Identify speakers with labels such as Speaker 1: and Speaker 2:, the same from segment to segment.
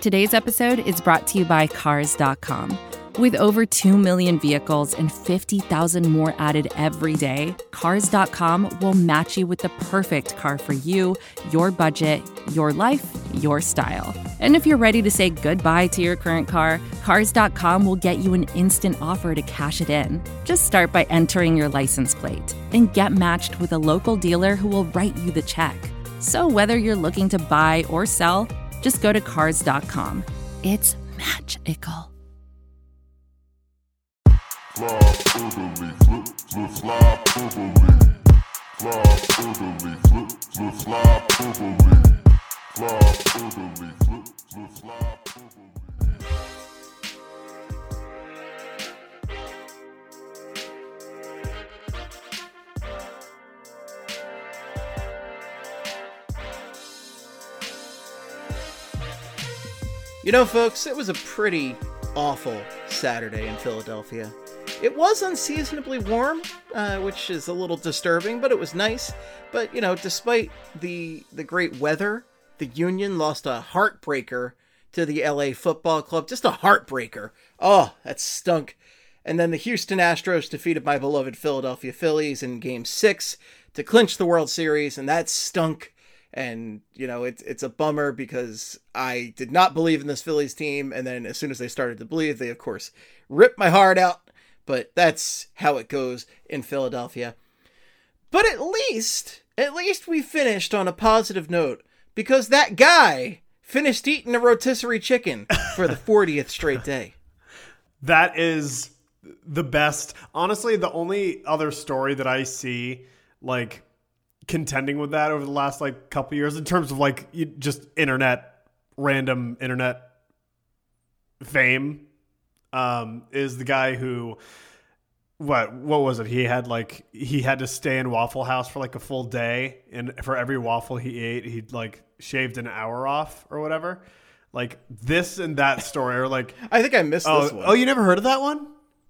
Speaker 1: Today's episode is brought to you by Cars.com. With over 2 million vehicles and 50,000 more added every day, Cars.com will match you with the perfect car for you, your budget, your life, your style. And if you're ready to say goodbye to your current car, Cars.com will get you an instant offer to cash it in. Just start by entering your license plate and get matched with a local dealer who will write you the check. So whether you're looking to buy or sell, just go to Cars.com. It's magical.
Speaker 2: Fly orderly, flip, flip, fly orderly. Fly orderly, flip, flip, fly orderly. Fly orderly, flip, flip, fly orderly.
Speaker 3: You know, folks, it was a pretty awful Saturday in Philadelphia. It was unseasonably warm, which is a little disturbing, but it was nice. But, you know, despite the great weather, the Union lost a heartbreaker to the LA Football Club. Just a heartbreaker. Oh, that stunk. And then the Houston Astros defeated my beloved Philadelphia Phillies in Game 6 to clinch the World Series, and that stunk. And, you know, it's a bummer because I did not believe in this Phillies team. And then as soon as they started to believe, they, of course, ripped my heart out. But that's how it goes in Philadelphia. But at least we finished on a positive note because that guy finished eating a rotisserie chicken for the 40th straight day.
Speaker 4: That is the best. Honestly, the only other story that I see, like, contending with that over the last like couple years in terms of like just random internet fame, is the guy who what was it? He had to stay in Waffle House for like a full day, and for every waffle he ate, he like shaved an hour off or whatever. Like this and that story are like
Speaker 3: I think I missed this one.
Speaker 4: Oh, you never heard of that one?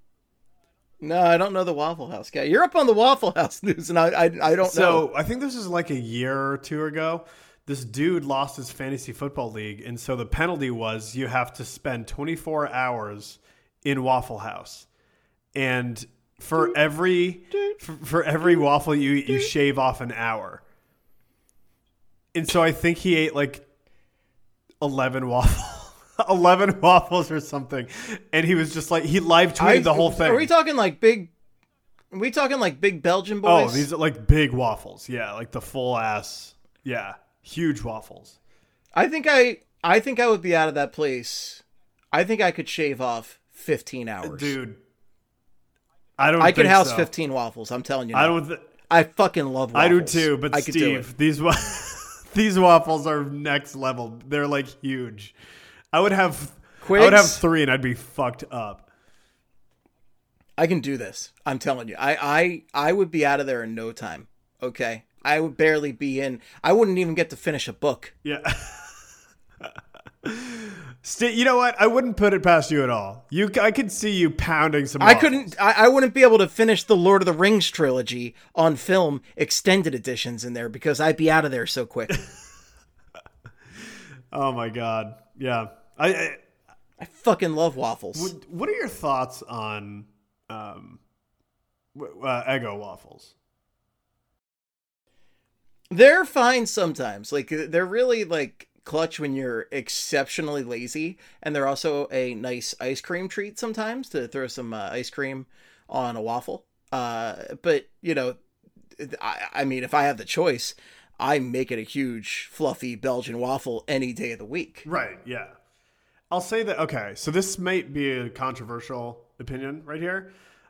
Speaker 3: No, I don't know the Waffle House guy. You're up on the Waffle House news, and I don't know.
Speaker 4: So I think this is like a year or two ago. This dude lost his fantasy football league, and so the penalty was you have to spend 24 hours in Waffle House, and for every waffle you eat, you shave off an hour. And so I think he ate like 11 waffles or something, and he was just like he live tweeted the whole thing.
Speaker 3: Are we talking like big Belgian boys?
Speaker 4: Oh, these are like big waffles. Yeah, like the full ass. Yeah, huge waffles.
Speaker 3: I think I would be out of that place. I think I could shave off 15 hours,
Speaker 4: dude.
Speaker 3: I could house 15 waffles. I'm telling you. I fucking love waffles.
Speaker 4: I do too. But Steve, these waffles are next level. They're like huge. I would have 3 and I'd be fucked up.
Speaker 3: I can do this. I'm telling you. I would be out of there in no time. Okay. I would barely be in. I wouldn't even get to finish a book.
Speaker 4: Yeah. You know what? I wouldn't put it past you at all. I could see you pounding some waffles.
Speaker 3: I wouldn't be able to finish the Lord of the Rings trilogy on film extended editions in there because I'd be out of there so quick.
Speaker 4: Oh my God. Yeah.
Speaker 3: I fucking love waffles.
Speaker 4: What are your thoughts on Eggo waffles?
Speaker 3: They're fine sometimes. Like they're really like clutch when you're exceptionally lazy, and they're also a nice ice cream treat sometimes to throw some ice cream on a waffle. But you know, I mean, if I have the choice, I make it a huge fluffy Belgian waffle any day of the week.
Speaker 4: Right. Yeah. I'll say that. Okay. So this might be a controversial opinion right here.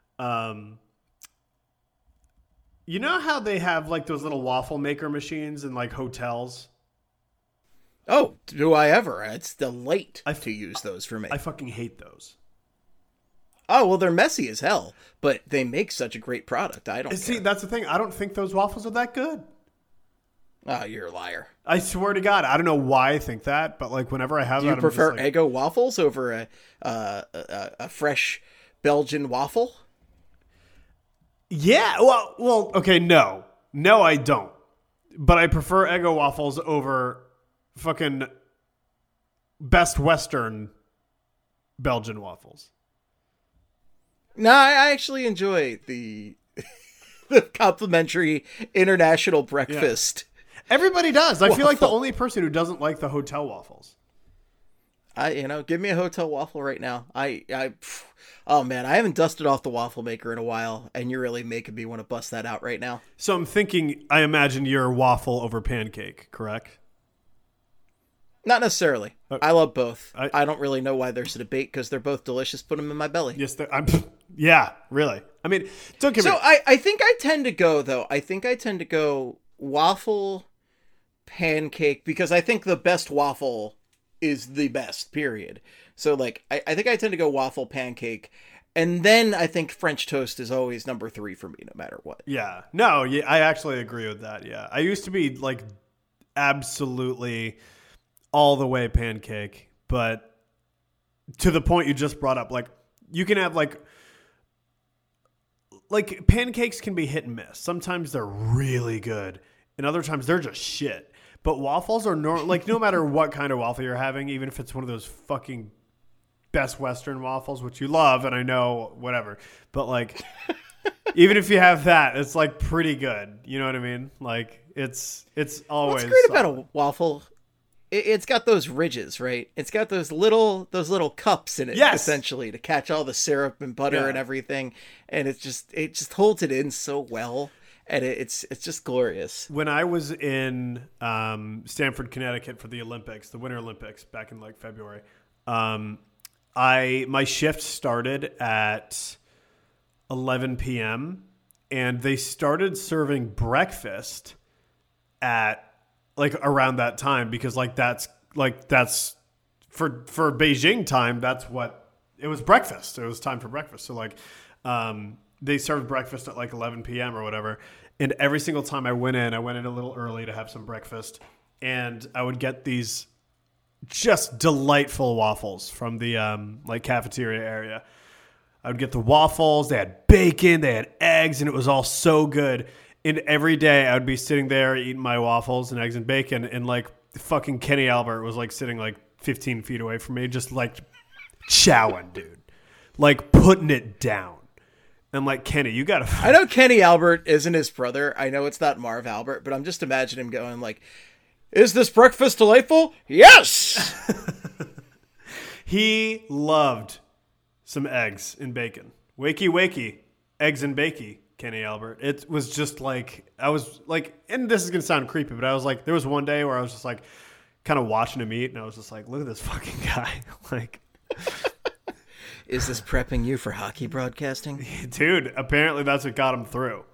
Speaker 4: You know how they have like those little waffle maker machines in like hotels?
Speaker 3: Oh, do I ever? It's delight to use those for me.
Speaker 4: I fucking hate those.
Speaker 3: Oh, well, they're messy as hell, but they make such a great product. I don't
Speaker 4: see.
Speaker 3: care.
Speaker 4: That's the thing. I don't think those waffles are that good.
Speaker 3: Oh, you're a liar.
Speaker 4: I swear to God, I don't know why I think that, but like whenever I have
Speaker 3: Do
Speaker 4: that,
Speaker 3: you prefer
Speaker 4: I'm just like,
Speaker 3: Eggo waffles over a fresh Belgian waffle?
Speaker 4: Yeah. Well. Okay. No, I don't. But I prefer Eggo waffles over fucking Best Western Belgian waffles.
Speaker 3: No, I actually enjoy the the complimentary international breakfast.
Speaker 4: Everybody does. I feel like the
Speaker 3: Waffle.
Speaker 4: only person who doesn't like the hotel waffles.
Speaker 3: Give me a hotel waffle right now. Oh man, I haven't dusted off the waffle maker in a while, and you're really making me want to bust that out right now.
Speaker 4: So I'm thinking, I imagine you're waffle over pancake, correct?
Speaker 3: Not necessarily. I love both.
Speaker 4: I-
Speaker 3: I don't really know why there's a debate because they're both delicious. Put them in my belly.
Speaker 4: Yes, yeah, really. I mean, don't get me.
Speaker 3: So I think I tend to go though. I think I tend to go waffle, pancake because I think the best waffle is the best. Period. So like I think I tend to go waffle, pancake, and then I think French toast is always number 3 for me, no matter what.
Speaker 4: Yeah, no, yeah, I actually agree with that. Yeah, I used to be like absolutely all the way pancake, but to the point you just brought up, like you can have like pancakes can be hit and miss. Sometimes they're really good, and other times they're just shit. But waffles are no matter what kind of waffle you're having, even if it's one of those fucking Best Western waffles, which you love, and I know whatever, but like even if you have that, it's like pretty good. You know what I mean? Like it's always
Speaker 3: What's great
Speaker 4: solid.
Speaker 3: about a waffle? It's got those ridges, right? It's got those little cups in it,
Speaker 4: Yes.
Speaker 3: essentially, to catch all the syrup and butter
Speaker 4: Yeah.
Speaker 3: and everything, and it just holds it in so well, and it's just glorious.
Speaker 4: When I was in Stamford, Connecticut for the Olympics, the Winter Olympics back in like February, my shift started at 11 p.m. and they started serving breakfast at like around that time because that's for Beijing time. That's what it was. Breakfast. It was time for breakfast. So like they served breakfast at like 11 p.m. or whatever. And every single time I went in a little early to have some breakfast, and I would get these just delightful waffles from the like cafeteria area. I would get the waffles. They had bacon, they had eggs, and it was all so good. And every day I would be sitting there eating my waffles and eggs and bacon, and like fucking Kenny Albert was like sitting like 15 feet away from me, just like chowing, dude, like putting it down. I'm like, Kenny, you gotta.
Speaker 3: I know Kenny Albert isn't his brother. I know it's not Marv Albert, but I'm just imagining him going like, "Is this breakfast delightful? Yes."
Speaker 4: He loved some eggs and bacon. Wakey, wakey, eggs and bakey, Kenny Albert. It was just like, I was like, and this is going to sound creepy, but I was like, there was one day where I was just like, kind of watching him eat, and I was just like, look at this fucking guy. Like,
Speaker 3: Is this prepping you for hockey broadcasting?
Speaker 4: dude, apparently that's what got him through.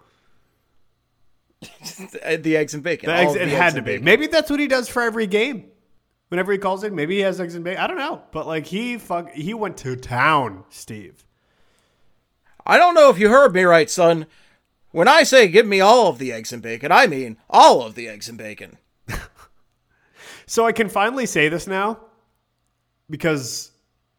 Speaker 3: The eggs and bacon.
Speaker 4: The
Speaker 3: All
Speaker 4: eggs,
Speaker 3: of the
Speaker 4: it
Speaker 3: eggs
Speaker 4: had
Speaker 3: and
Speaker 4: to be.
Speaker 3: bacon.
Speaker 4: Maybe that's what he does for every game. Whenever he calls in, maybe he has eggs and bacon. I don't know. But like he went to town, Steve.
Speaker 3: I don't know if you heard me right, son. When I say give me all of the eggs and bacon, I mean all of the eggs and bacon.
Speaker 4: So I can finally say this now because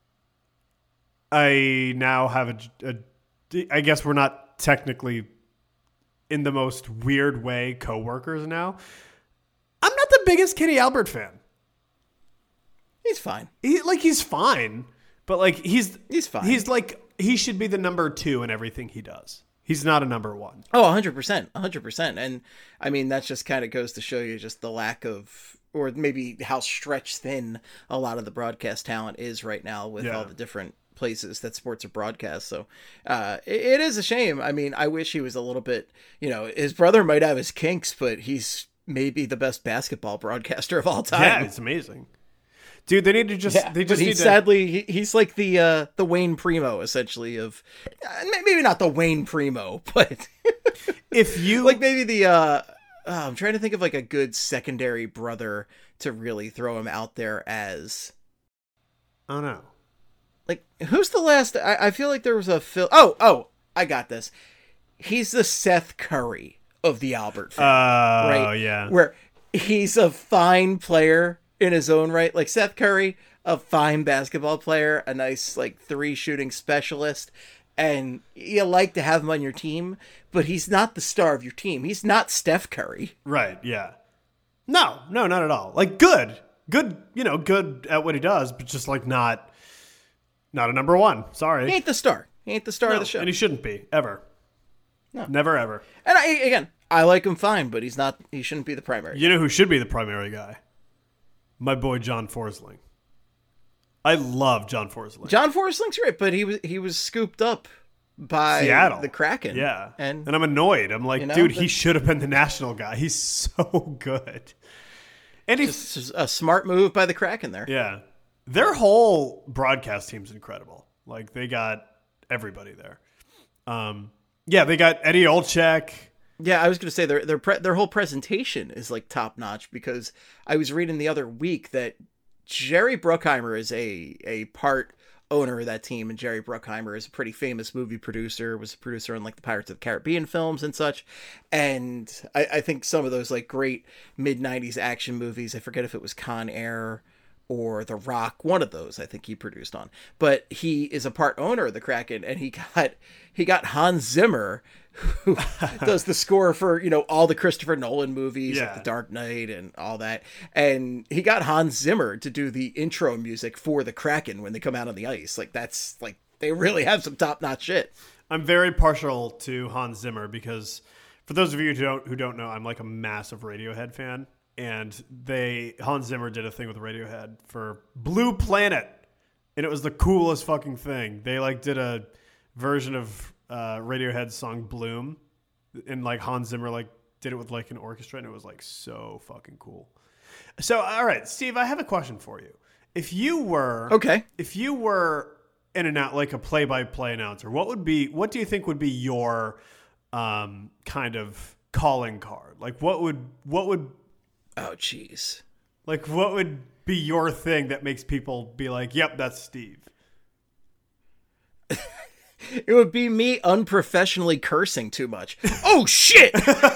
Speaker 4: I now have I guess we're not technically in the most weird way coworkers now. I'm not the biggest Kenny Albert fan.
Speaker 3: He's fine.
Speaker 4: He's fine, but like he's
Speaker 3: fine.
Speaker 4: He's like he should be the number 2 in everything he does. He's not a number 1.
Speaker 3: Oh, 100%. 100%. And I mean, that just kind of goes to show you just the lack of, or maybe how stretched thin a lot of the broadcast talent is right now with all the different places that sports are broadcast. So it is a shame. I mean, I wish he was a little bit, his brother might have his kinks, but he's maybe the best basketball broadcaster of all time.
Speaker 4: Yeah, it's amazing. Dude, they need to just they just need to
Speaker 3: sadly he's like the Wayne Primo essentially of maybe not the Wayne Primo, but
Speaker 4: if you
Speaker 3: like maybe the I'm trying to think of like a good secondary brother to really throw him out there as.
Speaker 4: I don't know.
Speaker 3: Like who's the last? I feel like there was a Phil. Oh, I got this. He's the Seth Curry of the Albert family, right?
Speaker 4: Yeah.
Speaker 3: Where he's a fine player in his own right. Like Seth Curry, a fine basketball player, a nice like 3 shooting specialist, and you like to have him on your team, but he's not the star of your team. He's not Steph Curry.
Speaker 4: Right, yeah. No, not at all. Like good. Good, good at what he does, but just like not a number one. Sorry.
Speaker 3: He ain't the star. He ain't the star of the show.
Speaker 4: And he shouldn't be, ever.
Speaker 3: No.
Speaker 4: Never, ever.
Speaker 3: And I like him fine, but he shouldn't be the primary.
Speaker 4: You know who should be the primary guy? My boy John Forsling. I love John Forsling.
Speaker 3: John Forsling's great, but he was scooped up by
Speaker 4: Seattle.
Speaker 3: the Kraken.
Speaker 4: Yeah.
Speaker 3: And
Speaker 4: I'm annoyed. I'm like, dude, he should have been the national guy. He's so good. And he's
Speaker 3: just a smart move by the Kraken there.
Speaker 4: Yeah. Their whole broadcast team's incredible. Like, they got everybody there. Yeah, they got Eddie Olczyk.
Speaker 3: Yeah, I was going to say their whole presentation is like top notch, because I was reading the other week that Jerry Bruckheimer is a part owner of that team, and Jerry Bruckheimer is a pretty famous movie producer, was a producer on like the Pirates of the Caribbean films and such. And I think some of those like great mid-90s action movies, I forget if it was Con Air or The Rock, one of those I think he produced on. But he is a part owner of the Kraken, and he got Hans Zimmer, who does the score for, all the Christopher Nolan movies, like The Dark Knight and all that. And he got Hans Zimmer to do the intro music for the Kraken when they come out on the ice. Like, that's like, they really have some top-notch shit.
Speaker 4: I'm very partial to Hans Zimmer because, for those of you who don't know, I'm like a massive Radiohead fan. And Hans Zimmer did a thing with Radiohead for Blue Planet, and it was the coolest fucking thing. They like did a version of Radiohead's song Bloom, and like Hans Zimmer like did it with like an orchestra, and it was like so fucking cool. So, all right, Steve, I have a question for you. If you were like a play-by-play announcer, what do you think would be your kind of calling card? Like, what would
Speaker 3: Oh, jeez.
Speaker 4: Like, what would be your thing that makes people be like, yep, that's Steve?
Speaker 3: It would be me unprofessionally cursing too much. Oh, shit!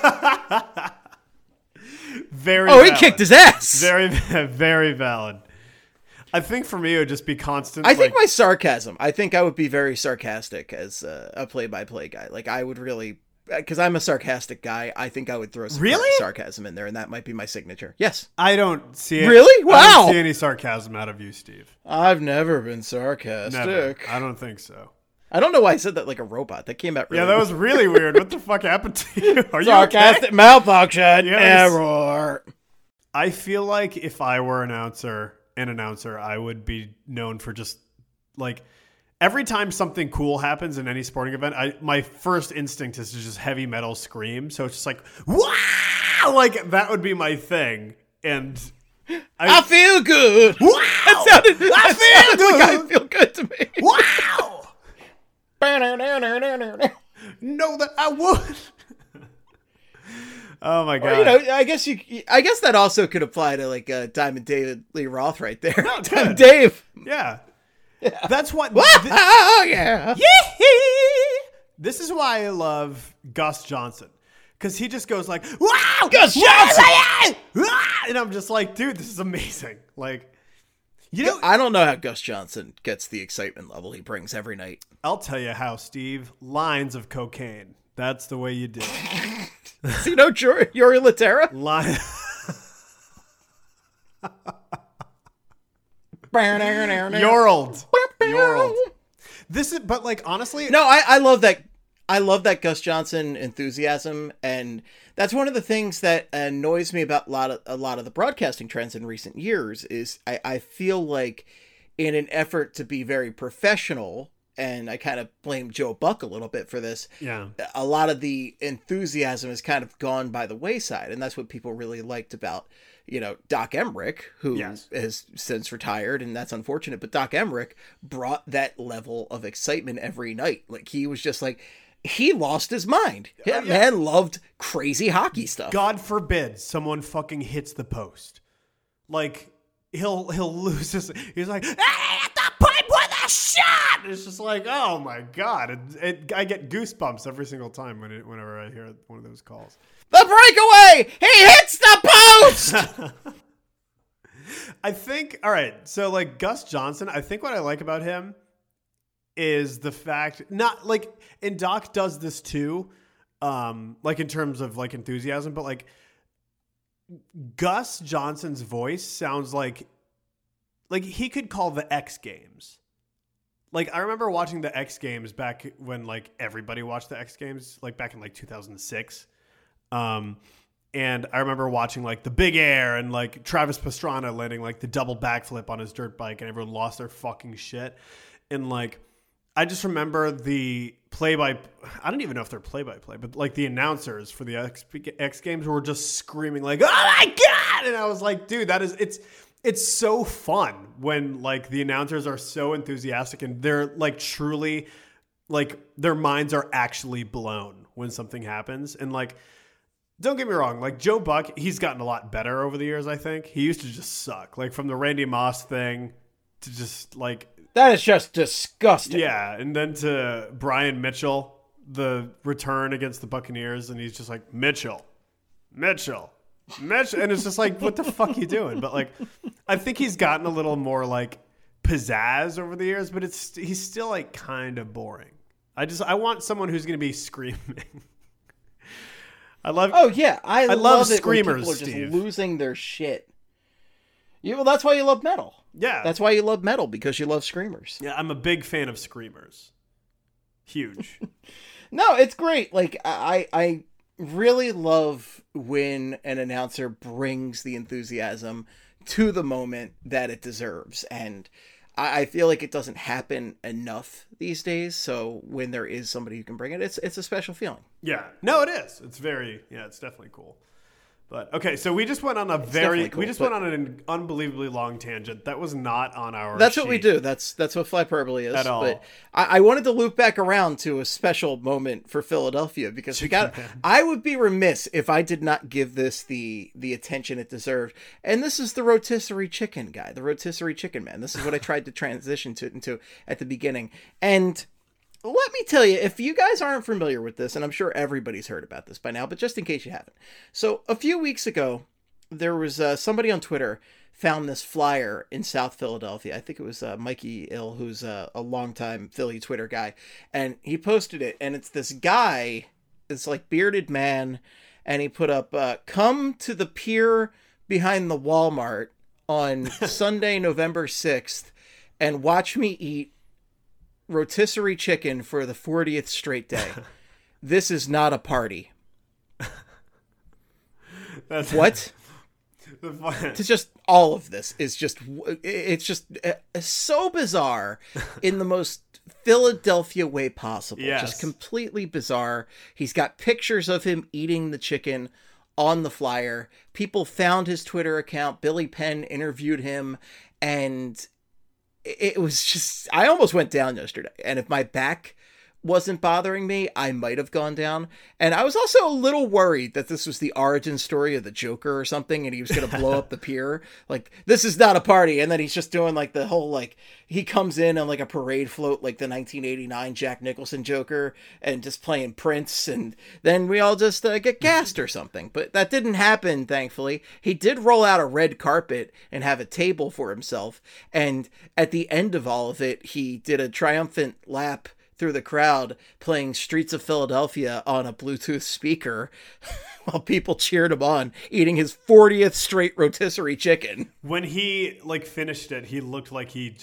Speaker 4: Very
Speaker 3: valid.
Speaker 4: He
Speaker 3: kicked his ass!
Speaker 4: Very, very valid. I think for me, it would just be constant.
Speaker 3: I think my sarcasm. I think I would be very sarcastic as a play-by-play guy. Like, I would really... Because I'm a sarcastic guy, I think I would throw some sarcasm in there, and that might be my signature. Yes.
Speaker 4: I don't see it.
Speaker 3: Really? Wow.
Speaker 4: I don't see any sarcasm out of you, Steve.
Speaker 3: I've never been sarcastic.
Speaker 4: Never. I don't think so.
Speaker 3: I don't know why I said that like a robot. That came out really
Speaker 4: that was really weird. What the fuck happened to you? Are you
Speaker 3: sarcastic
Speaker 4: okay?
Speaker 3: Malfunction. Error.
Speaker 4: I feel like if I were an announcer, I would be known for just like... Every time something cool happens in any sporting event, my first instinct is to just heavy metal scream. So it's just like, wow! Like, that would be my thing. And
Speaker 3: I feel good.
Speaker 4: Wow!
Speaker 3: I feel good to me.
Speaker 4: Wow! Know that I would. Oh my god!
Speaker 3: Or, I guess that also could apply to like Diamond David Lee Roth right there.
Speaker 4: Oh,
Speaker 3: Diamond Dave.
Speaker 4: Yeah. That's what.
Speaker 3: Oh yeah.
Speaker 4: This is why I love Gus Johnson, because he just goes like, "Wow,
Speaker 3: Gus Johnson!"
Speaker 4: and I'm just like, dude, this is amazing. Like,
Speaker 3: I don't know how Gus Johnson gets the excitement level he brings every night.
Speaker 4: I'll tell you how, Steve. Lines of cocaine. That's the way you do it.
Speaker 3: See, Yuri Laterra.
Speaker 4: You're old. This is, but like, honestly,
Speaker 3: no, I love that. I love that Gus Johnson enthusiasm, and that's one of the things that annoys me about a lot of the broadcasting trends in recent years. Is I feel like, in an effort to be very professional, and I kind of blame Joe Buck a little bit for this.
Speaker 4: Yeah,
Speaker 3: a lot of the enthusiasm has kind of gone by the wayside, and that's what people really liked about, Doc Emmerich, who has since retired, and that's unfortunate, but Doc Emmerich brought that level of excitement every night. Like, he was just like, he lost his mind. That man loved crazy hockey stuff.
Speaker 4: God forbid someone fucking hits the post. Like, he'll lose his, he's like, hey, at the pipe with a shot! It's just like, oh my God. I get goosebumps every single time whenever I hear one of those calls.
Speaker 3: The breakaway! He hits the post!
Speaker 4: I think, all right, so like Gus Johnson, I think what I like about him is the fact, not like, and Doc does this too, like in terms of like enthusiasm, but like Gus Johnson's voice sounds like he could call the X Games. Like, I remember watching the X Games back when, like, everybody watched the X Games, like, back in, like, 2006. And I remember watching, like, the Big Air and, like, Travis Pastrana landing, like, the double backflip on his dirt bike, and everyone lost their fucking shit. And, like, I just remember the I don't even know if they're play-by-play, but, like, the announcers for the X Games were just screaming, like, oh, my God! And I was like, dude, it's so fun when, like, the announcers are so enthusiastic and they're, like, truly, like, their minds are actually blown when something happens. And, like, don't get me wrong, like, Joe Buck, he's gotten a lot better over the years, I think. He used to just suck. Like, from the Randy Moss thing to just, like...
Speaker 3: That is just disgusting.
Speaker 4: Yeah, and then to Brian Mitchell, the return against the Buccaneers, and he's just like, Mitchell. And it's just like, what the fuck are you doing? But, like, I think he's gotten a little more, like, pizzazz over the years, but he's still, like, kind of boring. I want someone who's going to be screaming. I love
Speaker 3: When
Speaker 4: screamers,
Speaker 3: people are just
Speaker 4: Steve.
Speaker 3: losing their shit. Well, that's why you love metal.
Speaker 4: Yeah.
Speaker 3: That's why you love metal, because you love screamers.
Speaker 4: Yeah, I'm a big fan of screamers. Huge.
Speaker 3: No, it's great. Like, I really love when an announcer brings the enthusiasm to the moment that it deserves. And I feel like it doesn't happen enough these days. So when there is somebody who can bring it, it's a special feeling.
Speaker 4: Yeah. No, it is. It's definitely cool. But okay, so we just went on went on an unbelievably long tangent. That was not on our
Speaker 3: That's
Speaker 4: sheet.
Speaker 3: what we do. That's what Flyperbole is.
Speaker 4: At all.
Speaker 3: But I wanted to loop back around to a special moment for Philadelphia because I would be remiss if I did not give this the attention it deserved. And this is the rotisserie chicken guy, the rotisserie chicken man. This is what I tried to transition into at the beginning. And let me tell you, if you guys aren't familiar with this, and I'm sure everybody's heard about this by now, but just in case you haven't. So a few weeks ago, there was somebody on Twitter found this flyer in South Philadelphia. I think it was Mikey Ill, who's a longtime Philly Twitter guy. And he posted it, and it's this guy, this like bearded man, and he put up, come to the pier behind the Walmart on Sunday, November 6th, and watch me eat rotisserie chicken for the 40th straight day. This is not a party.
Speaker 4: That's
Speaker 3: what? It's just all of this is just so bizarre in the most Philadelphia way possible.
Speaker 4: Yes.
Speaker 3: Just completely bizarre. He's got pictures of him eating the chicken on the flyer. People found his Twitter account. Billy Penn interviewed him, and it was just, I almost went down yesterday. And if my back wasn't bothering me, I might have gone down. And I was also a little worried that this was the origin story of the Joker or something, and he was going to blow up the pier. Like, this is not a party. And then he's just doing like the whole, like, he comes in on like a parade float, like the 1989 Jack Nicholson Joker, and just playing Prince. And then we all just get gassed or something. But that didn't happen, thankfully. He did roll out a red carpet and have a table for himself. And at the end of all of it, he did a triumphant lap through the crowd playing Streets of Philadelphia on a Bluetooth speaker while people cheered him on, eating his 40th straight rotisserie chicken.
Speaker 4: When he like finished it, he looked like he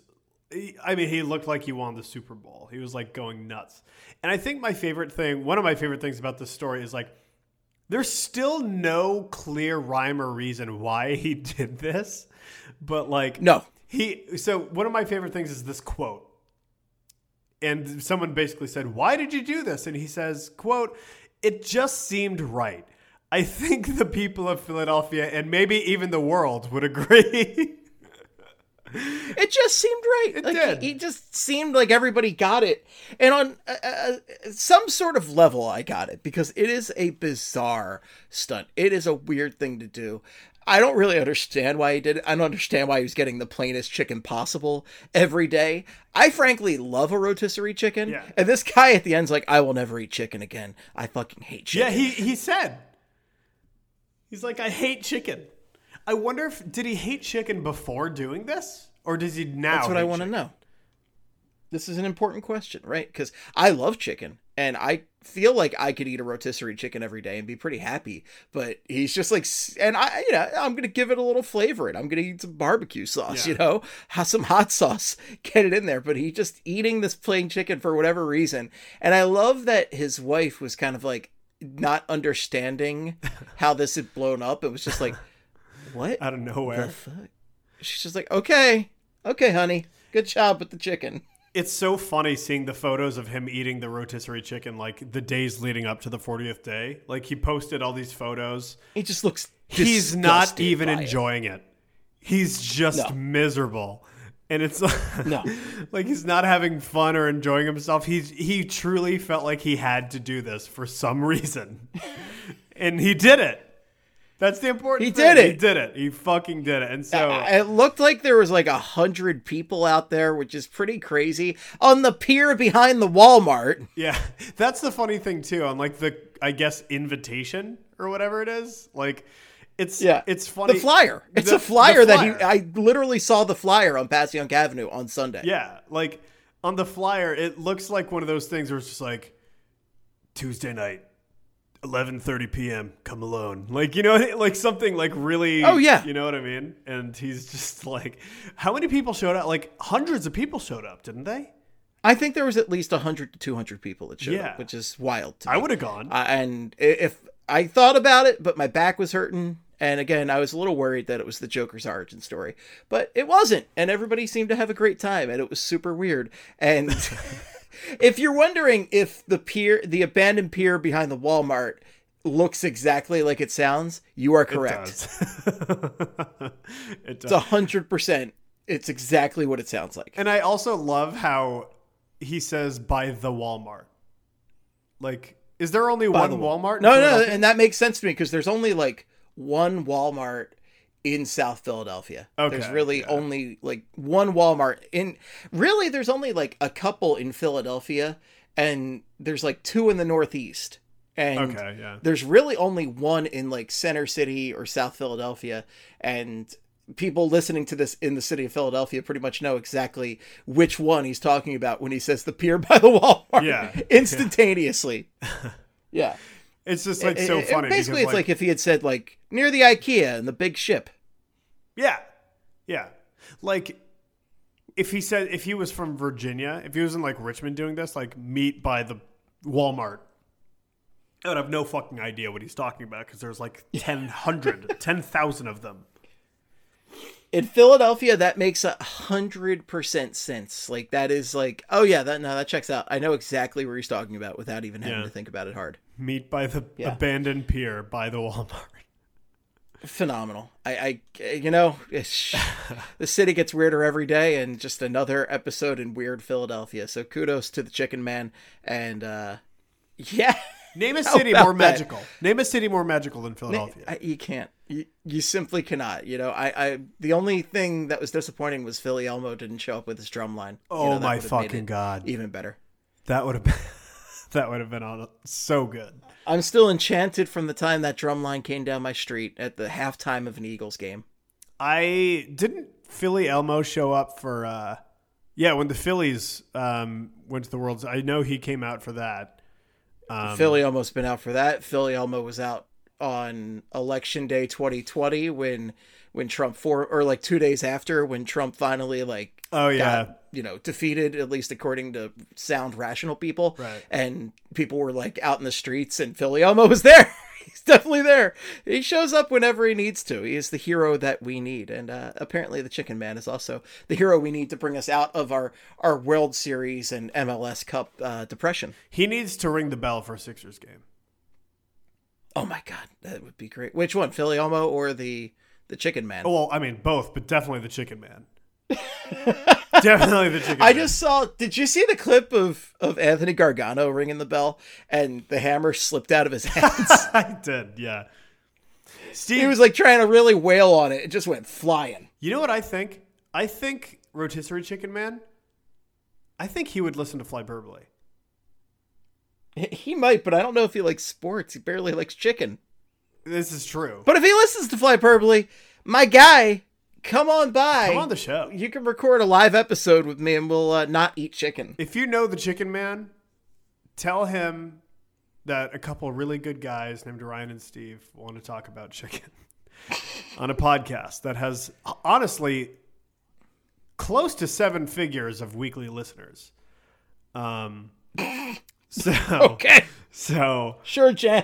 Speaker 4: looked like he won the Super Bowl. He was like going nuts. And I think one of my favorite things about this story is like, there's still no clear rhyme or reason why he did this, but like,
Speaker 3: no.
Speaker 4: So one of my favorite things is this quote. And someone basically said, why did you do this? And he says, quote, it just seemed right. I think the people of Philadelphia and maybe even the world would agree.
Speaker 3: It just seemed right.
Speaker 4: It
Speaker 3: like,
Speaker 4: did.
Speaker 3: He just seemed like everybody got it. And on some sort of level, I got it. Because it is a bizarre stunt. It is a weird thing to do. I don't really understand why he did it. I don't understand why he was getting the plainest chicken possible every day. I frankly love a rotisserie chicken.
Speaker 4: Yeah.
Speaker 3: And this guy at the end's like, I will never eat chicken again. I fucking hate chicken.
Speaker 4: Yeah, he said. He's like, I hate chicken. I wonder did he hate chicken before doing this? Or does he now?
Speaker 3: That's what I want to know. This is an important question, right? Because I love chicken. And I feel like I could eat a rotisserie chicken every day and be pretty happy. But he's just like, and I'm going to give it a little flavor. And I'm going to eat some barbecue sauce, have some hot sauce, get it in there. But he just eating this plain chicken for whatever reason. And I love that his wife was kind of like not understanding how this had blown up. It was just like, what?
Speaker 4: Out of nowhere.
Speaker 3: The fuck? She's just like, okay, honey, good job with the chicken.
Speaker 4: It's so funny seeing the photos of him eating the rotisserie chicken, like the days leading up to the 40th day. Like he posted all these photos.
Speaker 3: He just looks
Speaker 4: He's not even enjoying it. He's just miserable. And it's
Speaker 3: no,
Speaker 4: like he's not having fun or enjoying himself. He truly felt like he had to do this for some reason. And he did it. That's the important thing. He did it. He fucking did it. And so
Speaker 3: it looked like there was like 100 people out there, which is pretty crazy, on the pier behind the Walmart.
Speaker 4: Yeah. That's the funny thing too. On like the, I guess, invitation or whatever it is. Like it's funny.
Speaker 3: The flyer. It's a flyer that I literally saw the flyer on Passyunk Avenue on Sunday.
Speaker 4: Yeah. Like on the flyer, it looks like one of those things where it's just like Tuesday night. 11:30 p.m. Come alone, like like something like really.
Speaker 3: Oh yeah,
Speaker 4: you know what I mean. And he's just like, how many people showed up? Like hundreds of people showed up, didn't they?
Speaker 3: I think there was at least 100 to 200 people that showed up, which is wild to me.
Speaker 4: I would have gone.
Speaker 3: And if I thought about it, but my back was hurting, and again, I was a little worried that it was the Joker's origin story, but it wasn't, and everybody seemed to have a great time, and it was super weird. And if you're wondering if the abandoned pier behind the Walmart looks exactly like it sounds, you are correct.
Speaker 4: It does.
Speaker 3: It's 100%. It's exactly what it sounds like.
Speaker 4: And I also love how he says by the Walmart. Like, is there only one Walmart?
Speaker 3: No, and that makes sense to me because there's only like one Walmart in South Philadelphia.
Speaker 4: Okay,
Speaker 3: there's really only like one Walmart there's only like a couple in Philadelphia, and there's like two in the Northeast. And there's really only one in like Center City or South Philadelphia. And people listening to this in the city of Philadelphia pretty much know exactly which one he's talking about when he says the pier by the Walmart.
Speaker 4: Yeah.
Speaker 3: Instantaneously. Yeah.
Speaker 4: It's just like so funny.
Speaker 3: Basically, it's like if he had said like near the IKEA and the big ship.
Speaker 4: Yeah. Yeah. Like if he was from Virginia, if he was in like Richmond doing this, like meet by the Walmart, I would have no fucking idea what he's talking about because there's like 10,000 of them.
Speaker 3: In Philadelphia, that makes 100% sense. Like that is like, oh yeah, that checks out. I know exactly what he's talking about without even having to think about it hard.
Speaker 4: Meet by the abandoned pier by the Walmart.
Speaker 3: Phenomenal. The city gets weirder every day, and just another episode in weird Philadelphia. So kudos to the Chicken Man, and
Speaker 4: name a city more magical. Name a city more magical than Philadelphia.
Speaker 3: You can't. You simply cannot. The only thing that was disappointing was Philly Elmo didn't show up with his drum line.
Speaker 4: Oh my fucking god!
Speaker 3: Even better.
Speaker 4: That would have been on so good.
Speaker 3: I'm still enchanted from the time that drum line came down my street at the halftime of an Eagles game.
Speaker 4: Didn't Philly Elmo show up for when the Phillies went to the World. I know he came out for that.
Speaker 3: Philly Elmo's been out for that. Philly Elmo was out on Election Day 2020 when Trump 2 days after when Trump finally got, defeated, at least according to sound rational people.
Speaker 4: Right.
Speaker 3: And people were like out in the streets and Philly Elmo was there. He's definitely there. He shows up whenever he needs to. He is the hero that we need. And apparently the Chicken Man is also the hero we need to bring us out of our World Series and MLS Cup depression.
Speaker 4: He needs to ring the bell for a Sixers game.
Speaker 3: Oh my God, that would be great. Which one, Philly Elmo or the Chicken Man?
Speaker 4: Well, I mean, both, but definitely the Chicken Man. Definitely the Chicken Man.
Speaker 3: I just saw, did you see the clip of Anthony Gargano ringing the bell and the hammer slipped out of his hands?
Speaker 4: I did, yeah.
Speaker 3: He was like trying to really wail on it. It just went flying.
Speaker 4: You know what I think? I think Rotisserie Chicken Man, I think he would listen to Flyperbole.
Speaker 3: He might, but I don't know if he likes sports. He barely likes chicken.
Speaker 4: This is true.
Speaker 3: But if he listens to Flyperbole, my guy, come on by.
Speaker 4: Come on the show.
Speaker 3: You can record a live episode with me and we'll not eat chicken.
Speaker 4: If you know the Chicken Man, tell him that a couple really good guys named Ryan and Steve want to talk about chicken on a podcast that has honestly close to 7 figures of weekly listeners.
Speaker 3: Okay.
Speaker 4: So
Speaker 3: Sure, Jan.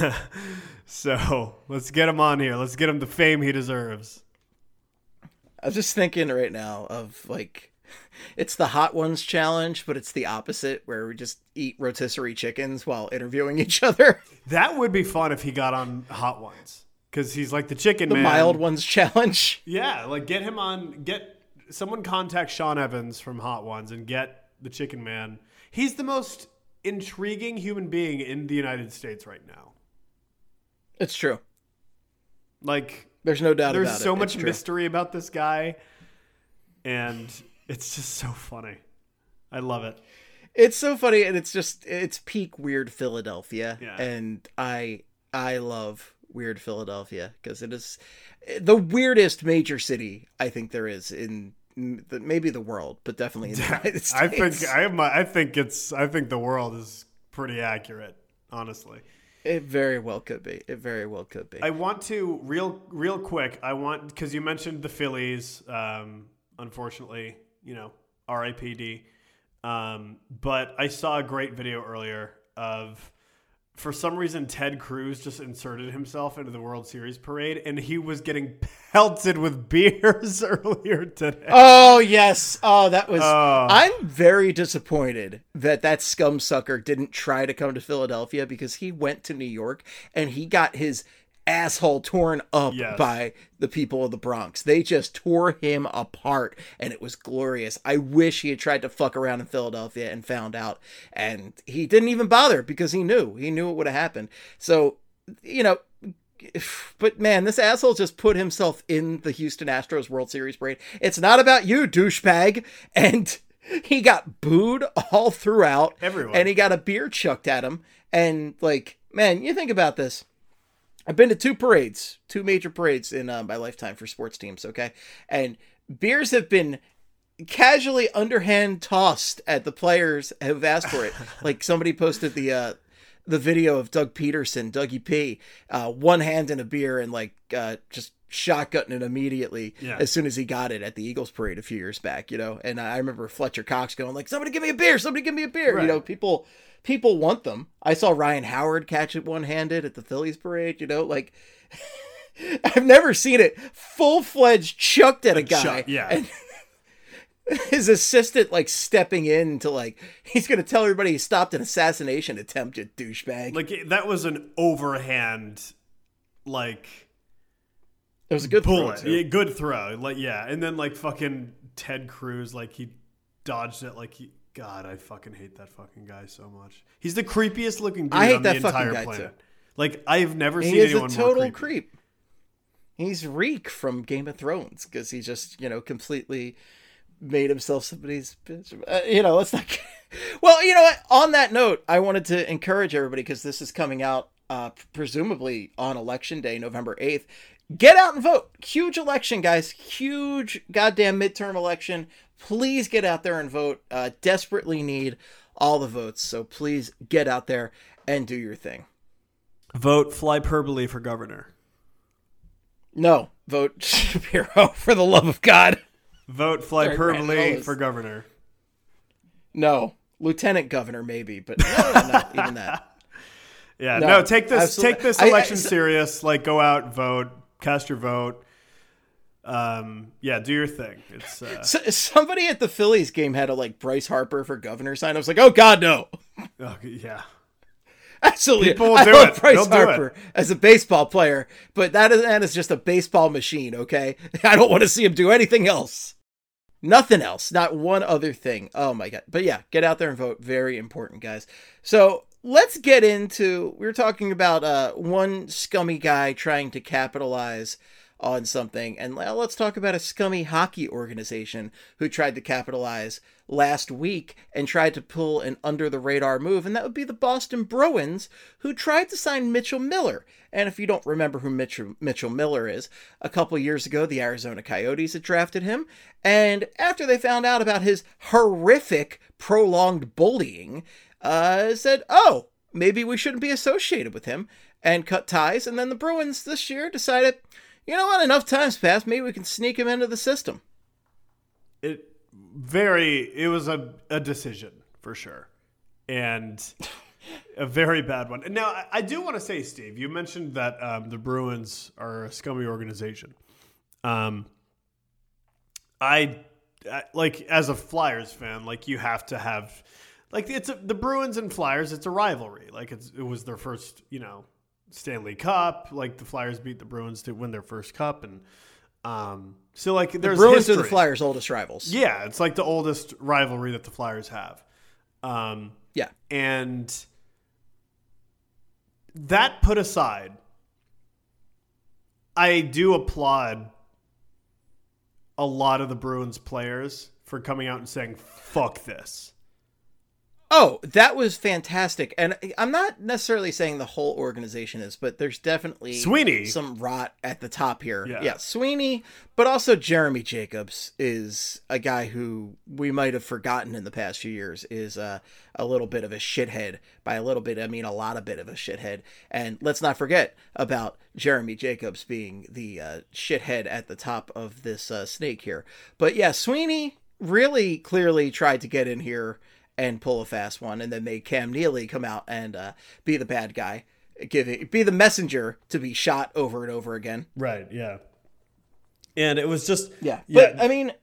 Speaker 4: So let's get him on here. Let's get him the fame he deserves.
Speaker 3: I was just thinking right now of like, it's the Hot Ones challenge, but it's the opposite where we just eat rotisserie chickens while interviewing each other.
Speaker 4: That would be fun if he got on Hot Ones because he's like the chicken
Speaker 3: The
Speaker 4: man.
Speaker 3: Mild Ones challenge.
Speaker 4: Yeah, like get him on. Get someone contact Sean Evans from Hot Ones and get the chicken man. He's the most intriguing human being in the United States right now.
Speaker 3: It's true.
Speaker 4: Like,
Speaker 3: there's no doubt about it.
Speaker 4: There's so much
Speaker 3: It's true.
Speaker 4: mystery about this guy, and it's just so funny. I love it.
Speaker 3: It's so funny, and it's peak weird Philadelphia,
Speaker 4: Yeah.
Speaker 3: and I love weird Philadelphia because it is the weirdest major city I think there is in maybe the world, but definitely in the United States.
Speaker 4: I think the world is pretty accurate, honestly.
Speaker 3: It very well could be. It very well could be.
Speaker 4: I want to real quick. Because you mentioned the Phillies. Unfortunately, R.I.P.D. But I saw a great video earlier of, for some reason, Ted Cruz just inserted himself into the World Series parade, and he was getting pelted with beers earlier today.
Speaker 3: Oh, yes. Oh, that was... I'm very disappointed that scumsucker didn't try to come to Philadelphia because he went to New York and he got his asshole torn up by the people of the Bronx. They just tore him apart, and it was glorious. I wish he had tried to fuck around in Philadelphia and found out, and he didn't even bother because he knew it would have happened. So, but man, this asshole just put himself in the Houston Astros World Series parade. It's not about you, douchebag. And he got booed all throughout.
Speaker 4: Everyone.
Speaker 3: And he got a beer chucked at him. And like, man, you think about this. I've been to 2 major parades in my lifetime for sports teams, okay? And beers have been casually underhand tossed at the players who've asked for it. Like somebody posted the video of Doug Peterson, Dougie P, one hand in a beer and like just shotgunning it immediately as soon as he got it at the Eagles parade a few years back, And I remember Fletcher Cox going like, somebody give me a beer, Right. People want them. I saw Ryan Howard catch it one-handed at the Phillies parade, like I've never seen it full-fledged chucked at a guy. And his assistant like stepping in to like, he's going to tell everybody he stopped an assassination attempt, you douchebag.
Speaker 4: Like that was an overhand, like
Speaker 3: it was a good
Speaker 4: bullet.
Speaker 3: throw.
Speaker 4: Good throw. Like, and then like fucking Ted Cruz, like he dodged it. Like God, I fucking hate that fucking guy so much. He's the creepiest looking dude on the entire planet. Too. Like I've never seen anyone more creepy. He is a total creep.
Speaker 3: He's Reek from Game of Thrones because he just, completely made himself somebody's bitch. Let's not. Well, you know what? On that note, I wanted to encourage everybody because this is coming out presumably on Election Day, November 8th. Get out and vote. Huge election, guys. Huge goddamn midterm election. Please get out there and vote. Desperately need all the votes. So please get out there and do your thing.
Speaker 4: Vote Flyperbole for governor.
Speaker 3: No. Vote Shapiro for the love of God.
Speaker 4: Vote Flyperbole for governor.
Speaker 3: No. Lieutenant governor, maybe, but no, not even that.
Speaker 4: Yeah, no, take this election serious. Like, go out, vote, cast your vote. Do your thing. It's
Speaker 3: somebody at the Phillies game had a like Bryce Harper for governor sign. I was like, oh God, no.
Speaker 4: Oh, yeah.
Speaker 3: Absolutely.
Speaker 4: People will do it.
Speaker 3: Bryce Harper as a baseball player, but that is just a baseball machine, okay? I don't want to see him do anything else. Nothing else. Not one other thing. Oh my God. But yeah, get out there and vote. Very important, guys. So let's get into, we were talking about one scummy guy trying to capitalize on something. And let's talk about a scummy hockey organization who tried to capitalize last week and tried to pull an under-the-radar move, and that would be the Boston Bruins, who tried to sign Mitchell Miller. And if you don't remember who Mitchell Miller is, a couple years ago, the Arizona Coyotes had drafted him, and after they found out about his horrific, prolonged bullying, said, oh, maybe we shouldn't be associated with him, and cut ties. And then the Bruins this year decided, you know what, enough time's passed, maybe we can sneak him into the system.
Speaker 4: It was a decision for sure, and a very bad one. And now I do want to say, Steve, you mentioned that the Bruins are a scummy organization. I like, as a Flyers fan, like, you have to have, like, the Bruins and Flyers. It's a rivalry. Like, it was their first, Stanley Cup. Like, the Flyers beat the Bruins to win their first cup, and so, like, there's
Speaker 3: the Bruins
Speaker 4: history.
Speaker 3: are the Flyers' oldest rivals.
Speaker 4: Yeah, it's like the oldest rivalry that the Flyers have.
Speaker 3: Yeah.
Speaker 4: And that put aside, I do applaud a lot of the Bruins players for coming out and saying, fuck this.
Speaker 3: Oh, that was fantastic. And I'm not necessarily saying the whole organization is, but there's definitely
Speaker 4: Sweeney.
Speaker 3: some rot at the top here.
Speaker 4: Yeah.
Speaker 3: Sweeney, but also Jeremy Jacobs is a guy who we might have forgotten in the past few years is a little bit of a shithead. By a little bit, I mean a lot of bit of a shithead. And let's not forget about Jeremy Jacobs being the shithead at the top of this snake here. But yeah, Sweeney really clearly tried to get in here and pull a fast one, and then made Cam Neely come out and be the bad guy, be the messenger to be shot over and over again.
Speaker 4: Right, yeah. And it was just...
Speaker 3: Yeah. But, I mean,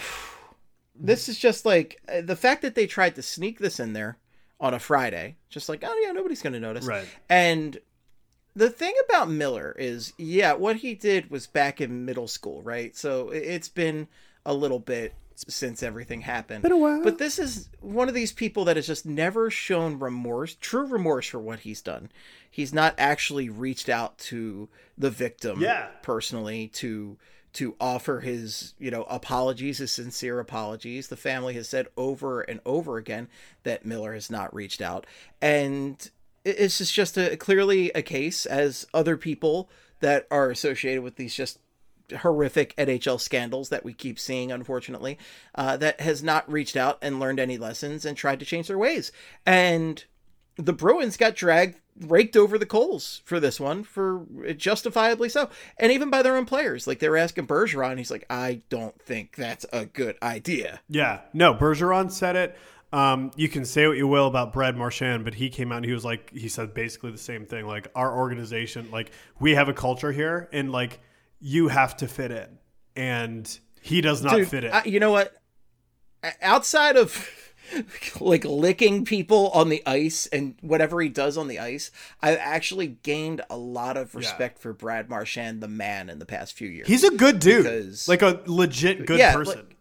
Speaker 3: this is just like, the fact that they tried to sneak this in there on a Friday, just like, oh yeah, nobody's going to notice.
Speaker 4: Right.
Speaker 3: And the thing about Miller is, what he did was back in middle school, right? So it's been a little bit since everything happened.
Speaker 4: Been a while.
Speaker 3: But this is one of these people that has just never shown true remorse for what he's done. He's not actually reached out to the victim personally to offer his, apologies, his sincere apologies. The family has said over and over again that Miller has not reached out. And it's just clearly a case, as other people that are associated with these just horrific NHL scandals that we keep seeing, unfortunately, that has not reached out and learned any lessons and tried to change their ways. And the Bruins got raked over the coals for this one, for justifiably so. And even by their own players. Like, they were asking Bergeron, he's like, I don't think that's a good idea.
Speaker 4: Yeah, no, Bergeron said it. You can say what you will about Brad Marchand, but he came out and he said basically the same thing. Like, our organization, like, we have a culture here, and like, you have to fit in, and he does not fit in.
Speaker 3: You know what? Outside of like licking people on the ice and whatever he does on the ice, I've actually gained a lot of respect for Brad Marchand, the man, in the past few years.
Speaker 4: He's a good dude, like a legit good person.
Speaker 3: Like,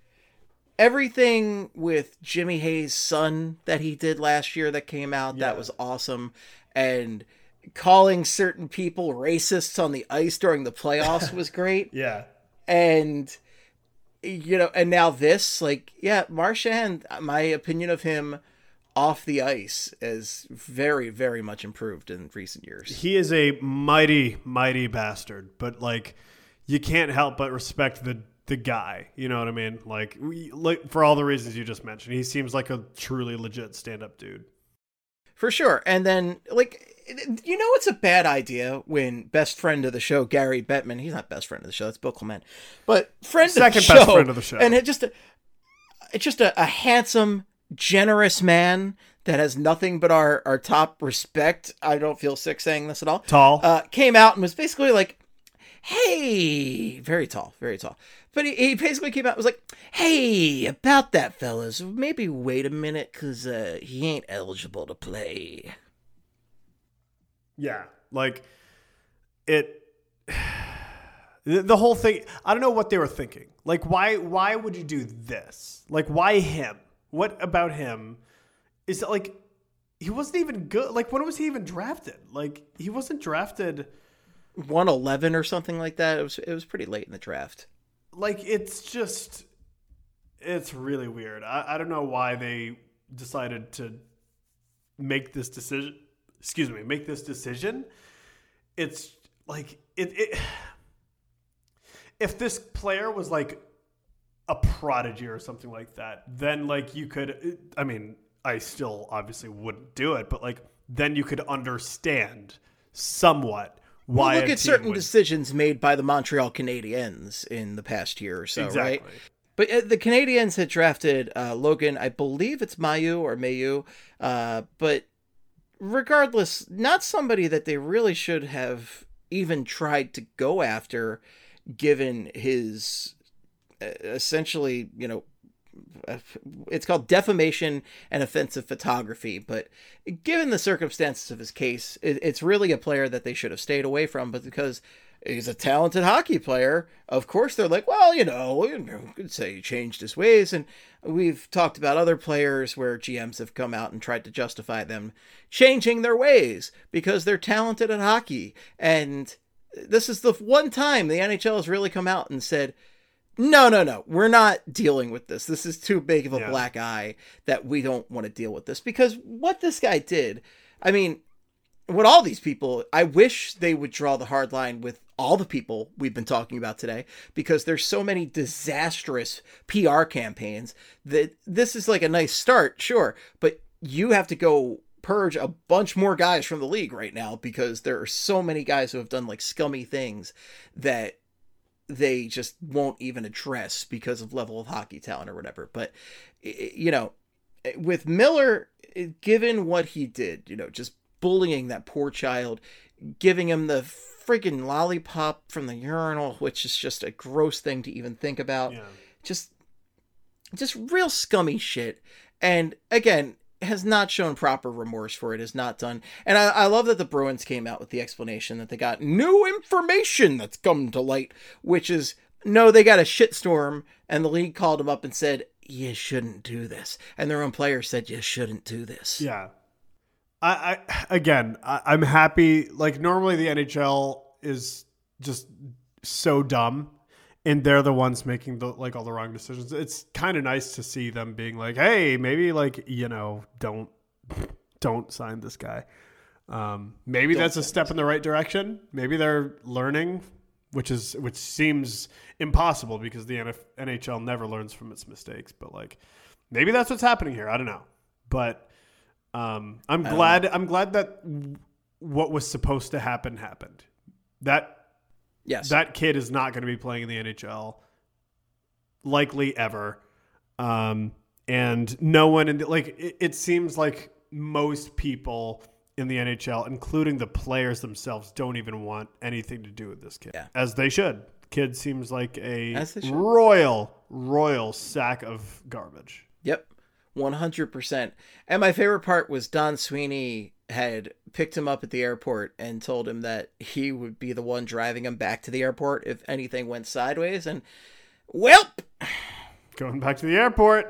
Speaker 3: everything with Jimmy Hayes' son that he did last year that came out, that was awesome. And calling certain people racists on the ice during the playoffs was great.
Speaker 4: Yeah.
Speaker 3: And, and now this, like, Marchand, my opinion of him off the ice is very, very much improved in recent years.
Speaker 4: He is a mighty, mighty bastard, but like, you can't help but respect the guy. You know what I mean? Like, for all the reasons you just mentioned, he seems like a truly legit stand-up dude.
Speaker 3: For sure. And then, like, it's a bad idea when best friend of the show, Gary Bettman, he's not best friend of the show, that's Bill Clement, but second best friend of the show. And it's just a handsome, generous man that has nothing but our top respect. I don't feel sick saying this at all.
Speaker 4: Tall.
Speaker 3: Came out and was basically like, hey, very tall, very tall. But he basically came out and was like, hey, about that, fellas, maybe wait a minute, because he ain't eligible to play.
Speaker 4: Yeah, like, the whole thing, I don't know what they were thinking. Like, why would you do this? Like, why him? What about him? Is it like, he wasn't even good? Like, when was he even drafted? Like, he wasn't drafted
Speaker 3: 111 or something like that. It was pretty late in the draft.
Speaker 4: Like, it's really weird. I don't know why they decided to make this decision. It's like if this player was like a prodigy or something like that, then like you could, I mean, I still obviously wouldn't do it, but like then you could understand somewhat why.
Speaker 3: Well, look at certain decisions made by the Montreal Canadiens in the past year or so,
Speaker 4: exactly.
Speaker 3: Right? But the Canadiens had drafted Logan, I believe it's Mailloux, but regardless, not somebody that they really should have even tried to go after, given his essentially, it's called defamation and offensive photography, but given the circumstances of his case, it's really a player that they should have stayed away from. But because he's a talented hockey player, of course they're like, well, we could say he changed his ways. And we've talked about other players where GMs have come out and tried to justify them changing their ways because they're talented at hockey. And this is the one time the NHL has really come out and said, no, we're not dealing with this. This is too big of a black eye that we don't want to deal with this. Because what this guy did, I mean, what all these people, I wish they would draw the hard line with all the people we've been talking about today, because there's so many disastrous PR campaigns that this is like a nice start, sure, but you have to go purge a bunch more guys from the league right now because there are so many guys who have done like scummy things that they just won't even address because of level of hockey talent or whatever. But, with Miller, given what he did, just bullying that poor child, giving him the friggin' lollipop from the urinal, which is just a gross thing to even think about. Yeah. Just real scummy shit. And again, has not shown proper remorse for it, has not done. And I love that the Bruins came out with the explanation that they got new information that's come to light, which is, no, they got a shitstorm and the league called them up and said, you shouldn't do this. And their own players said, you shouldn't do this.
Speaker 4: Yeah. I'm happy. Like, normally the NHL is just so dumb and they're the ones making all the wrong decisions. It's kind of nice to see them being like, hey, maybe don't sign this guy. Maybe that's a step in the right direction. Maybe they're learning, which seems impossible because the NHL never learns from its mistakes, but like maybe that's what's happening here. I don't know. But I'm glad that what was supposed to happen happened. That kid is not going to be playing in the NHL likely ever. And no one it seems like most people in the NHL, including the players themselves, don't even want anything to do with this kid. Yeah. As they should. Kid seems like a royal sack of garbage.
Speaker 3: Yep. 100%. And my favorite part was Don Sweeney had picked him up at the airport and told him that he would be the one driving him back to the airport if anything went sideways. And, welp!
Speaker 4: Going back to the airport.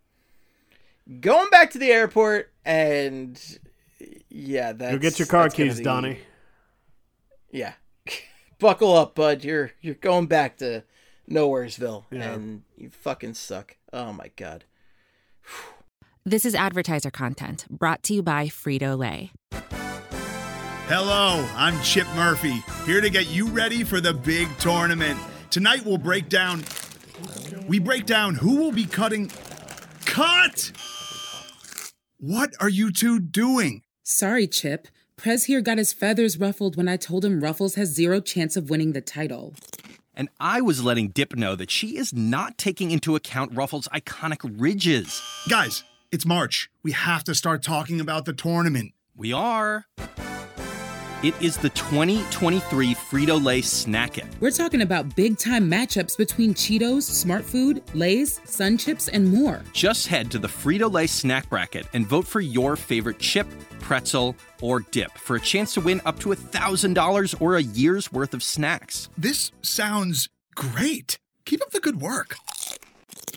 Speaker 3: And, yeah, that's...
Speaker 4: You'll get your car keys, Donnie.
Speaker 3: Yeah. Buckle up, bud. You're going back to Nowheresville. Yeah. And you fucking suck. Oh, my God.
Speaker 1: This is advertiser content brought to you by Frito-Lay.
Speaker 5: Hello, I'm Chip Murphy, here to get you ready for the big tournament. Tonight we'll break down who will be cutting... Cut! What are you two doing?
Speaker 6: Sorry, Chip. Prez here got his feathers ruffled when I told him Ruffles has zero chance of winning the title.
Speaker 7: And I was letting Dip know that she is not taking into account Ruffles' iconic ridges.
Speaker 5: Guys, it's March. We have to start talking about the tournament.
Speaker 7: We are. It is the 2023 Frito-Lay Snack It.
Speaker 6: We're talking about big-time matchups between Cheetos, Smart Food, Lay's, Sun Chips, and more.
Speaker 7: Just head to the Frito-Lay Snack Bracket and vote for your favorite chip, pretzel, or dip for a chance to win up to $1,000 or a year's worth of snacks.
Speaker 5: This sounds great. Keep up the good work.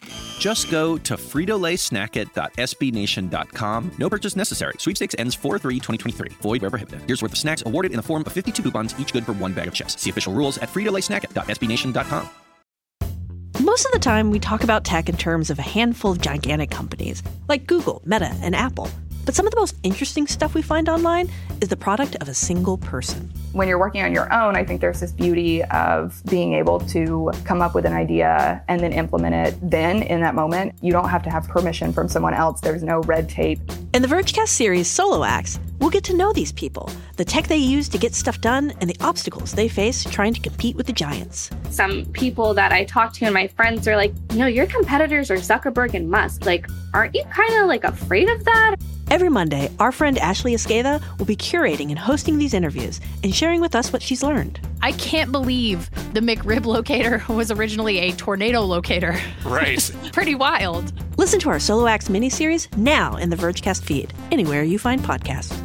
Speaker 7: Just go to fritolaysnacket.sbnation.com. No purchase necessary. Sweepstakes ends 4/3/2023. Void where prohibited. Here's worth of snacks awarded in the form of 52 coupons, each good for one bag of chips. See official rules at fritolaysnacket.sbnation.com.
Speaker 8: Most of the time, we talk about tech in terms of a handful of gigantic companies, like Google, Meta, and Apple. But some of the most interesting stuff we find online is the product of a single person.
Speaker 9: When you're working on your own, I think there's this beauty of being able to come up with an idea and then implement it then in that moment. You don't have to have permission from someone else. There's no red tape.
Speaker 8: In the Vergecast series Solo Acts, we'll get to know these people, the tech they use to get stuff done, and the obstacles they face trying to compete with the giants.
Speaker 10: Some people that I talk to and my friends are like, your competitors are Zuckerberg and Musk. Like, aren't you kind of afraid of that?
Speaker 8: Every Monday, our friend Ashley Esqueda will be curating and hosting these interviews and sharing with us what she's learned.
Speaker 11: I can't believe the McRib locator was originally a tornado locator.
Speaker 12: Right.
Speaker 11: Pretty wild.
Speaker 8: Listen to our Solo Acts miniseries now in the Vergecast feed, anywhere you find podcasts.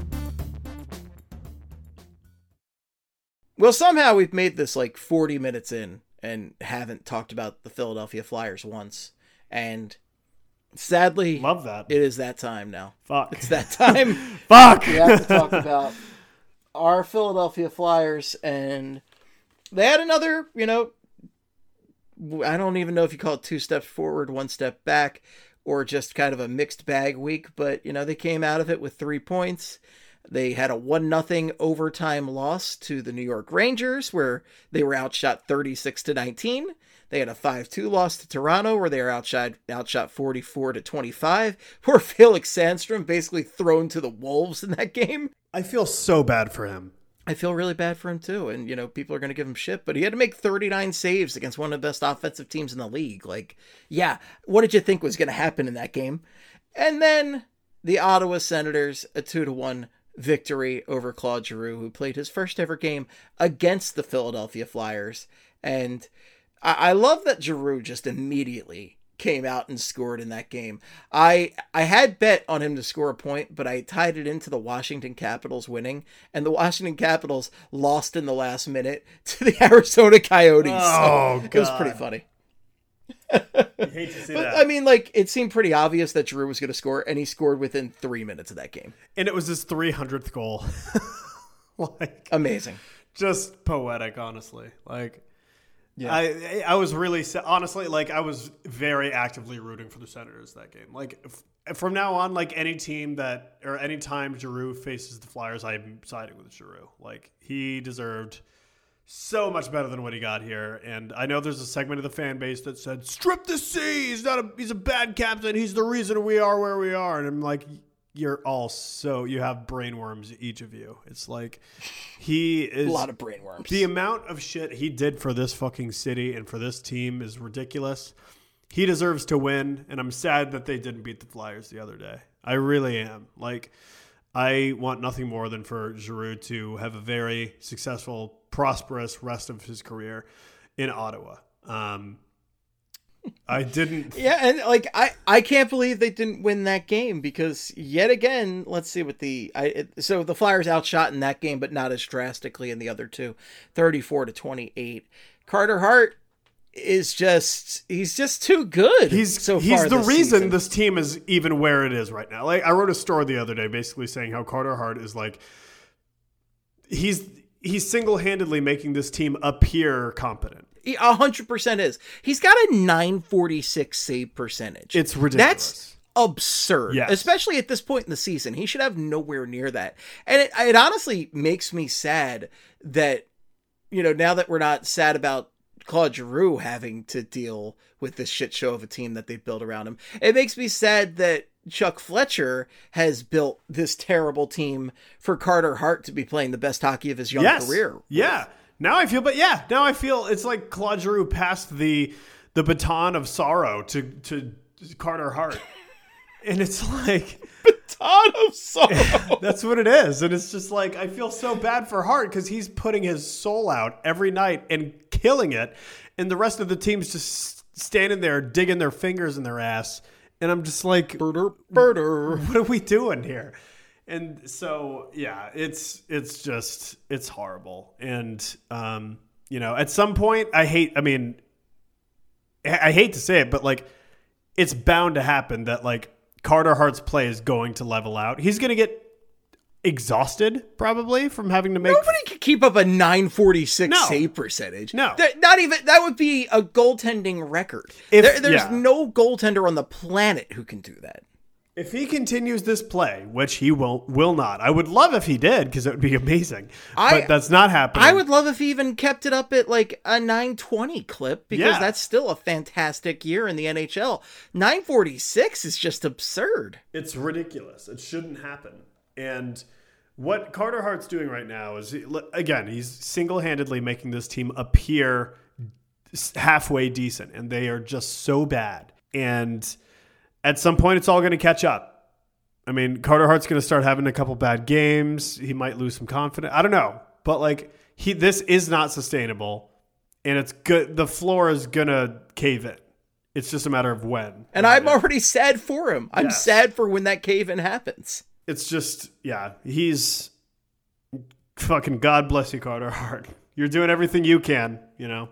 Speaker 3: Well, somehow we've made this 40 minutes in and haven't talked about the Philadelphia Flyers once. And sadly,
Speaker 4: love that.
Speaker 3: It is that time now.
Speaker 4: Fuck.
Speaker 3: It's that time.
Speaker 4: Fuck.
Speaker 3: We have to talk about our Philadelphia Flyers, and they had another, I don't even know if you call it 2 steps forward, 1 step back, or just kind of a mixed bag week, but, they came out of it with 3 points. They had a 1-0 overtime loss to the New York Rangers, where they were outshot 36-19. They had a 5-2 loss to Toronto, where they were outshot 44-25. Poor Felix Sandstrom basically thrown to the wolves in that game.
Speaker 4: I feel so bad for him.
Speaker 3: I feel really bad for him too, and people are going to give him shit, but he had to make 39 saves against one of the best offensive teams in the league. What did you think was going to happen in that game? And then the Ottawa Senators, a 2-1 victory over Claude Giroux, who played his first ever game against the Philadelphia Flyers. And I love that Giroux just immediately came out and scored in that game. I had bet on him to score a point, but I tied it into the Washington Capitals winning, and the Washington Capitals lost in the last minute to the Arizona Coyotes.
Speaker 4: Oh,
Speaker 3: so
Speaker 4: God.
Speaker 3: It was pretty funny.
Speaker 4: I hate to see that.
Speaker 3: I mean, it seemed pretty obvious that Giroux was going to score, and he scored within 3 minutes of that game.
Speaker 4: And it was his 300th goal.
Speaker 3: Amazing.
Speaker 4: Just poetic, honestly.
Speaker 3: Yeah.
Speaker 4: I was really, honestly, I was very actively rooting for the Senators that game. From now on, any team or any time Giroux faces the Flyers, I'm siding with Giroux. He deserved so much better than what he got here. And I know there's a segment of the fan base that said, strip the C, he's a bad captain, he's the reason we are where we are. And I'm like, you're all you have brainworms, each of you. It's he is
Speaker 3: a lot of brainworms.
Speaker 4: The amount of shit he did for this fucking city and for this team is ridiculous. He deserves to win, and I'm sad that they didn't beat the Flyers the other day. I really am. I want nothing more than for Giroux to have a very successful, prosperous rest of his career in Ottawa. I didn't.
Speaker 3: Yeah, and I can't believe they didn't win that game, because yet again, let's see what so the Flyers outshot in that game, but not as drastically in the other two, 34-28. Carter Hart he's just too good.
Speaker 4: He's the reason season. This team is even where it is right now. I wrote a story the other day basically saying how Carter Hart is he's single-handedly making this team appear competent.
Speaker 3: He 100% is. He's got a 946 save percentage.
Speaker 4: It's ridiculous.
Speaker 3: That's absurd,
Speaker 4: yes.
Speaker 3: Especially at this point in the season. He should have nowhere near that. And it honestly makes me sad that, now that we're not sad about Claude Giroux having to deal with this shit show of a team that they've built around him, it makes me sad that Chuck Fletcher has built this terrible team for Carter Hart to be playing the best hockey of his young career.
Speaker 4: Yeah. Now I feel it's like Claude Giroux passed the baton of sorrow to Carter Hart. And it's
Speaker 3: baton of sorrow.
Speaker 4: That's what it is. And it's just I feel so bad for Hart because he's putting his soul out every night and killing it. And the rest of the team's just standing there digging their fingers in their ass. And I'm just
Speaker 3: birder.
Speaker 4: What are we doing here? And so, yeah, it's horrible. And, at some point I hate to say it, but it's bound to happen that like Carter Hart's play is going to level out. He's going to get exhausted probably from having to make.
Speaker 3: Nobody can keep up a 946 save percentage.
Speaker 4: No.
Speaker 3: Not even, that would be a goaltending record. There's no goaltender on the planet who can do that.
Speaker 4: If he continues this play, which he will not, I would love if he did because it would be amazing. But that's not happening.
Speaker 3: I would love if he even kept it up at like a 920 clip because that's still a fantastic year in the NHL. 946 is just absurd.
Speaker 4: It's ridiculous. It shouldn't happen. And what Carter Hart's doing right now is, again, he's single-handedly making this team appear halfway decent, and they are just so bad. And at some point, it's all going to catch up. I mean, Carter Hart's going to start having a couple bad games. He might lose some confidence. I don't know. But like, this is not sustainable, and it's good. The floor is going to cave in. It's just a matter of when.
Speaker 3: And I'm already sad for him. I'm sad for when that cave-in happens.
Speaker 4: It's just, he's fucking God bless you, Carter Hart. You're doing everything you can, you know.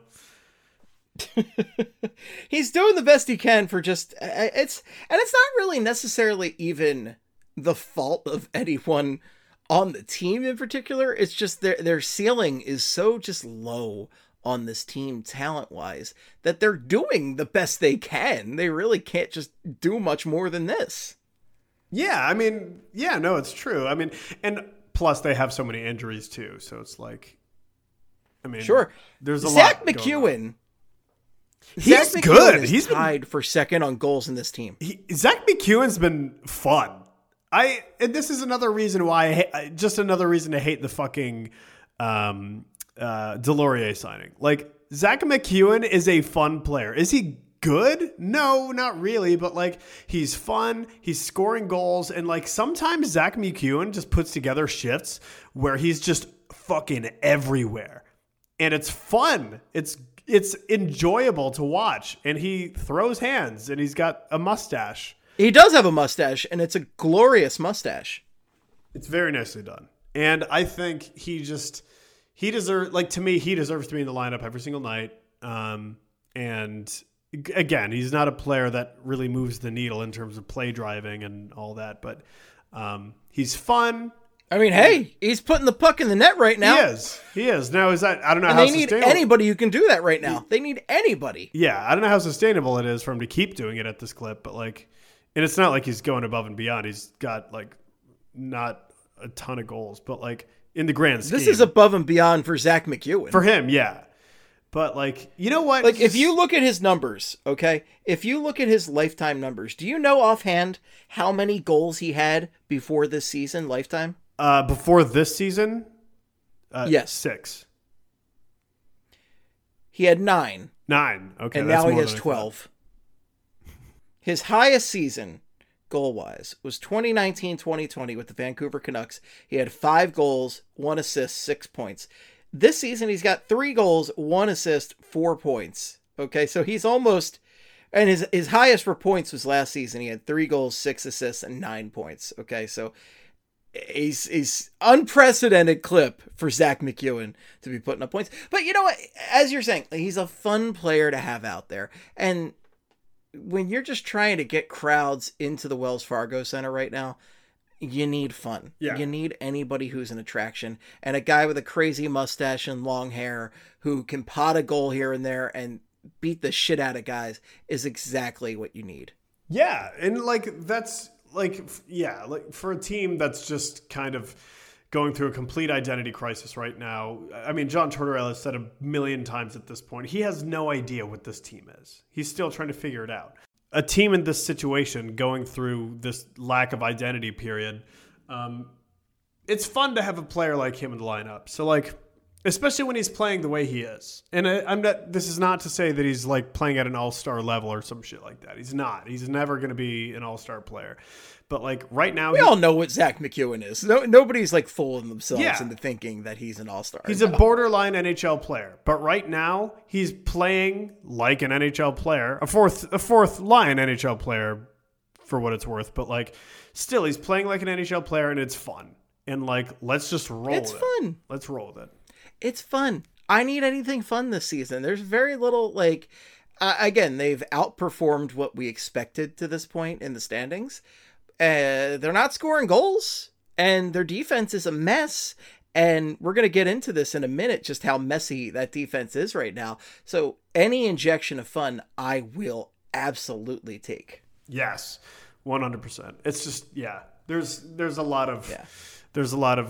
Speaker 3: He's doing the best he can for just, it's not really necessarily even the fault of anyone on the team in particular. It's just their ceiling is so just low on this team talent-wise that they're doing the best they can. They really can't just do much more than this.
Speaker 4: Yeah, I mean, no, it's true. I mean, and plus they have so many injuries too, so it's like, I mean,
Speaker 3: sure.
Speaker 4: There's a
Speaker 3: Zach
Speaker 4: lot.
Speaker 3: McEwen.
Speaker 4: He's
Speaker 3: Zach
Speaker 4: good.
Speaker 3: McEwen is
Speaker 4: He's
Speaker 3: tied for second on goals in this team.
Speaker 4: Zach McEwen's been fun. And this is another reason why just another reason to hate the fucking Delorier signing. Like, Zach McEwen is a fun player. Is he good? No, not really, but like, he's fun, he's scoring goals, and like sometimes Zach McEwen just puts together shifts where he's just fucking everywhere. And it's fun. It's enjoyable to watch, and he throws hands, and he's got a mustache.
Speaker 3: He does have a mustache, and it's a glorious mustache.
Speaker 4: It's very nicely done. And I think he deserves, like, to me, he deserves to be in the lineup every single night. And again, he's not a player that really moves the needle in terms of play driving and all that, but he's fun.
Speaker 3: I mean, hey, he's putting the puck in the net right now.
Speaker 4: He is. Now, is that, I don't know
Speaker 3: and
Speaker 4: how
Speaker 3: they need
Speaker 4: sustainable.
Speaker 3: anybody who can do that right now. They need anybody.
Speaker 4: Yeah, I don't know how sustainable it is for him to keep doing it at this clip, but like, and it's not like he's going above and beyond. He's got like not a ton of goals, but like in the grand scheme.
Speaker 3: This is above and beyond for Zach McEwen.
Speaker 4: For him, yeah. But like, you know what?
Speaker 3: Like, if you look at his numbers, okay? If you look at his lifetime numbers, do you know offhand how many goals he had before this season, lifetime?
Speaker 4: Before this season?
Speaker 3: Yes.
Speaker 4: 6.
Speaker 3: He had 9.
Speaker 4: 9. Okay.
Speaker 3: And
Speaker 4: that's
Speaker 3: now he
Speaker 4: more
Speaker 3: has
Speaker 4: than I
Speaker 3: 12. His highest season, goal-wise, was 2019-2020 with the Vancouver Canucks. He had 5 goals, 1 assist, 6 points. This season, he's got 3 goals, 1 assist, 4 points. Okay, so he's almost... And his highest for points was last season. He had 3 goals, 6 assists, and 9 points. Okay, so he's unprecedented clip for Zach McEwen to be putting up points. But you know what? As you're saying, he's a fun player to have out there. And when you're just trying to get crowds into the Wells Fargo Center right now, you need fun.
Speaker 4: Yeah.
Speaker 3: You need anybody who's an attraction. And a guy with a crazy mustache and long hair who can pot a goal here and there and beat the shit out of guys is exactly what you need.
Speaker 4: Yeah. And like, that's like, yeah, like for a team that's just kind of going through a complete identity crisis right now. I mean, John Tortorella has said a million times at this point, he has no idea what this team is. He's still trying to figure it out. A team in this situation going through this lack of identity period, it's fun to have a player like him in the lineup. So like, especially when he's playing the way he is. And this is not to say that he's like playing at an all-star level or some shit like that. He's not. He's never going to be an all-star player. But like right now,
Speaker 3: we all know what Zach McEwen is. Nobody's like fooling themselves into thinking that he's an all-star.
Speaker 4: He's a borderline NHL player. But right now, he's playing like an NHL player, a fourth line NHL player for what it's worth. But like, still, he's playing like an NHL player, and it's fun. And like, let's just roll with it.
Speaker 3: It's fun.
Speaker 4: Let's roll with it.
Speaker 3: It's fun. I need anything fun this season. There's very little like again, they've outperformed what we expected to this point in the standings. They're not scoring goals, and their defense is a mess. And we're going to get into this in a minute, just how messy that defense is right now. So any injection of fun, I will absolutely take.
Speaker 4: Yes, 100%. It's just, yeah, there's a lot of, there's a lot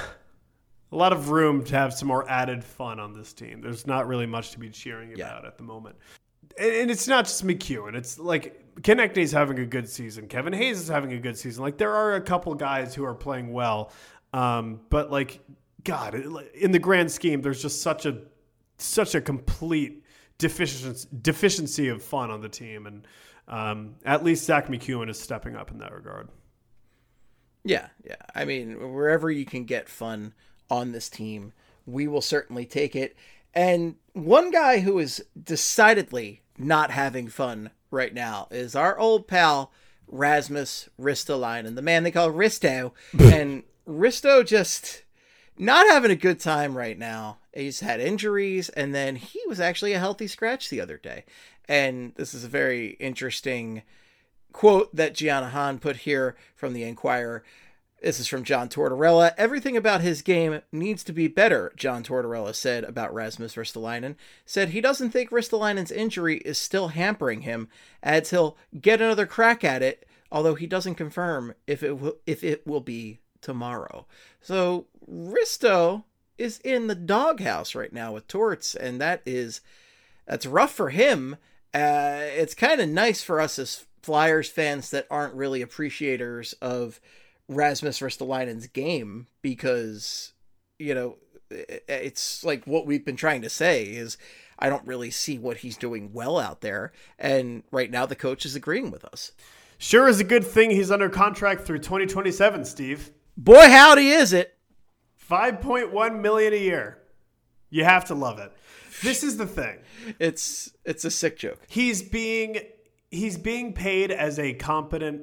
Speaker 4: of room to have some more added fun on this team. There's not really much to be cheering about at the moment. And it's not just McEwen. It's like Konechny's having a good season. Kevin Hayes is having a good season. Like, there are a couple guys who are playing well. But like, God, in the grand scheme, there's just such a complete deficiency of fun on the team. And at least Zach McEwen is stepping up in that regard.
Speaker 3: Yeah. I mean, wherever you can get fun on this team, we will certainly take it. And one guy who is decidedly not having fun right now is our old pal, Rasmus Ristolainen, the man they call Risto. And Risto just not having a good time right now. He's had injuries, and then he was actually a healthy scratch the other day. And this is a very interesting quote that Gianna Hahn put here from the Enquirer. This is from John Tortorella. Everything about his game needs to be better, John Tortorella said about Rasmus Ristolainen. Said he doesn't think Ristolainen's injury is still hampering him. Adds he'll get another crack at it, although he doesn't confirm if it will be tomorrow. So Risto is in the doghouse right now with Torts, and that's rough for him. It's kind of nice for us as Flyers fans that aren't really appreciators of Rasmus Ristolainen's game, because, you know, it's like what we've been trying to say is I don't really see what he's doing well out there. And right now the coach is agreeing with us.
Speaker 4: Sure is a good thing he's under contract through 2027, Steve.
Speaker 3: Boy, howdy is it.
Speaker 4: $5.1 million a year. You have to love it. This is the thing.
Speaker 3: It's a sick joke.
Speaker 4: He's being paid as a competent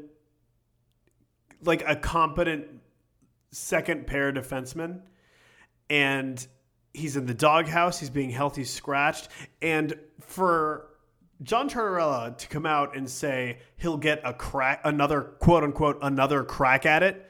Speaker 4: second pair defenseman, and he's in the doghouse. He's being healthy scratched, and for John Tortorella to come out and say he'll get another quote unquote another crack at it.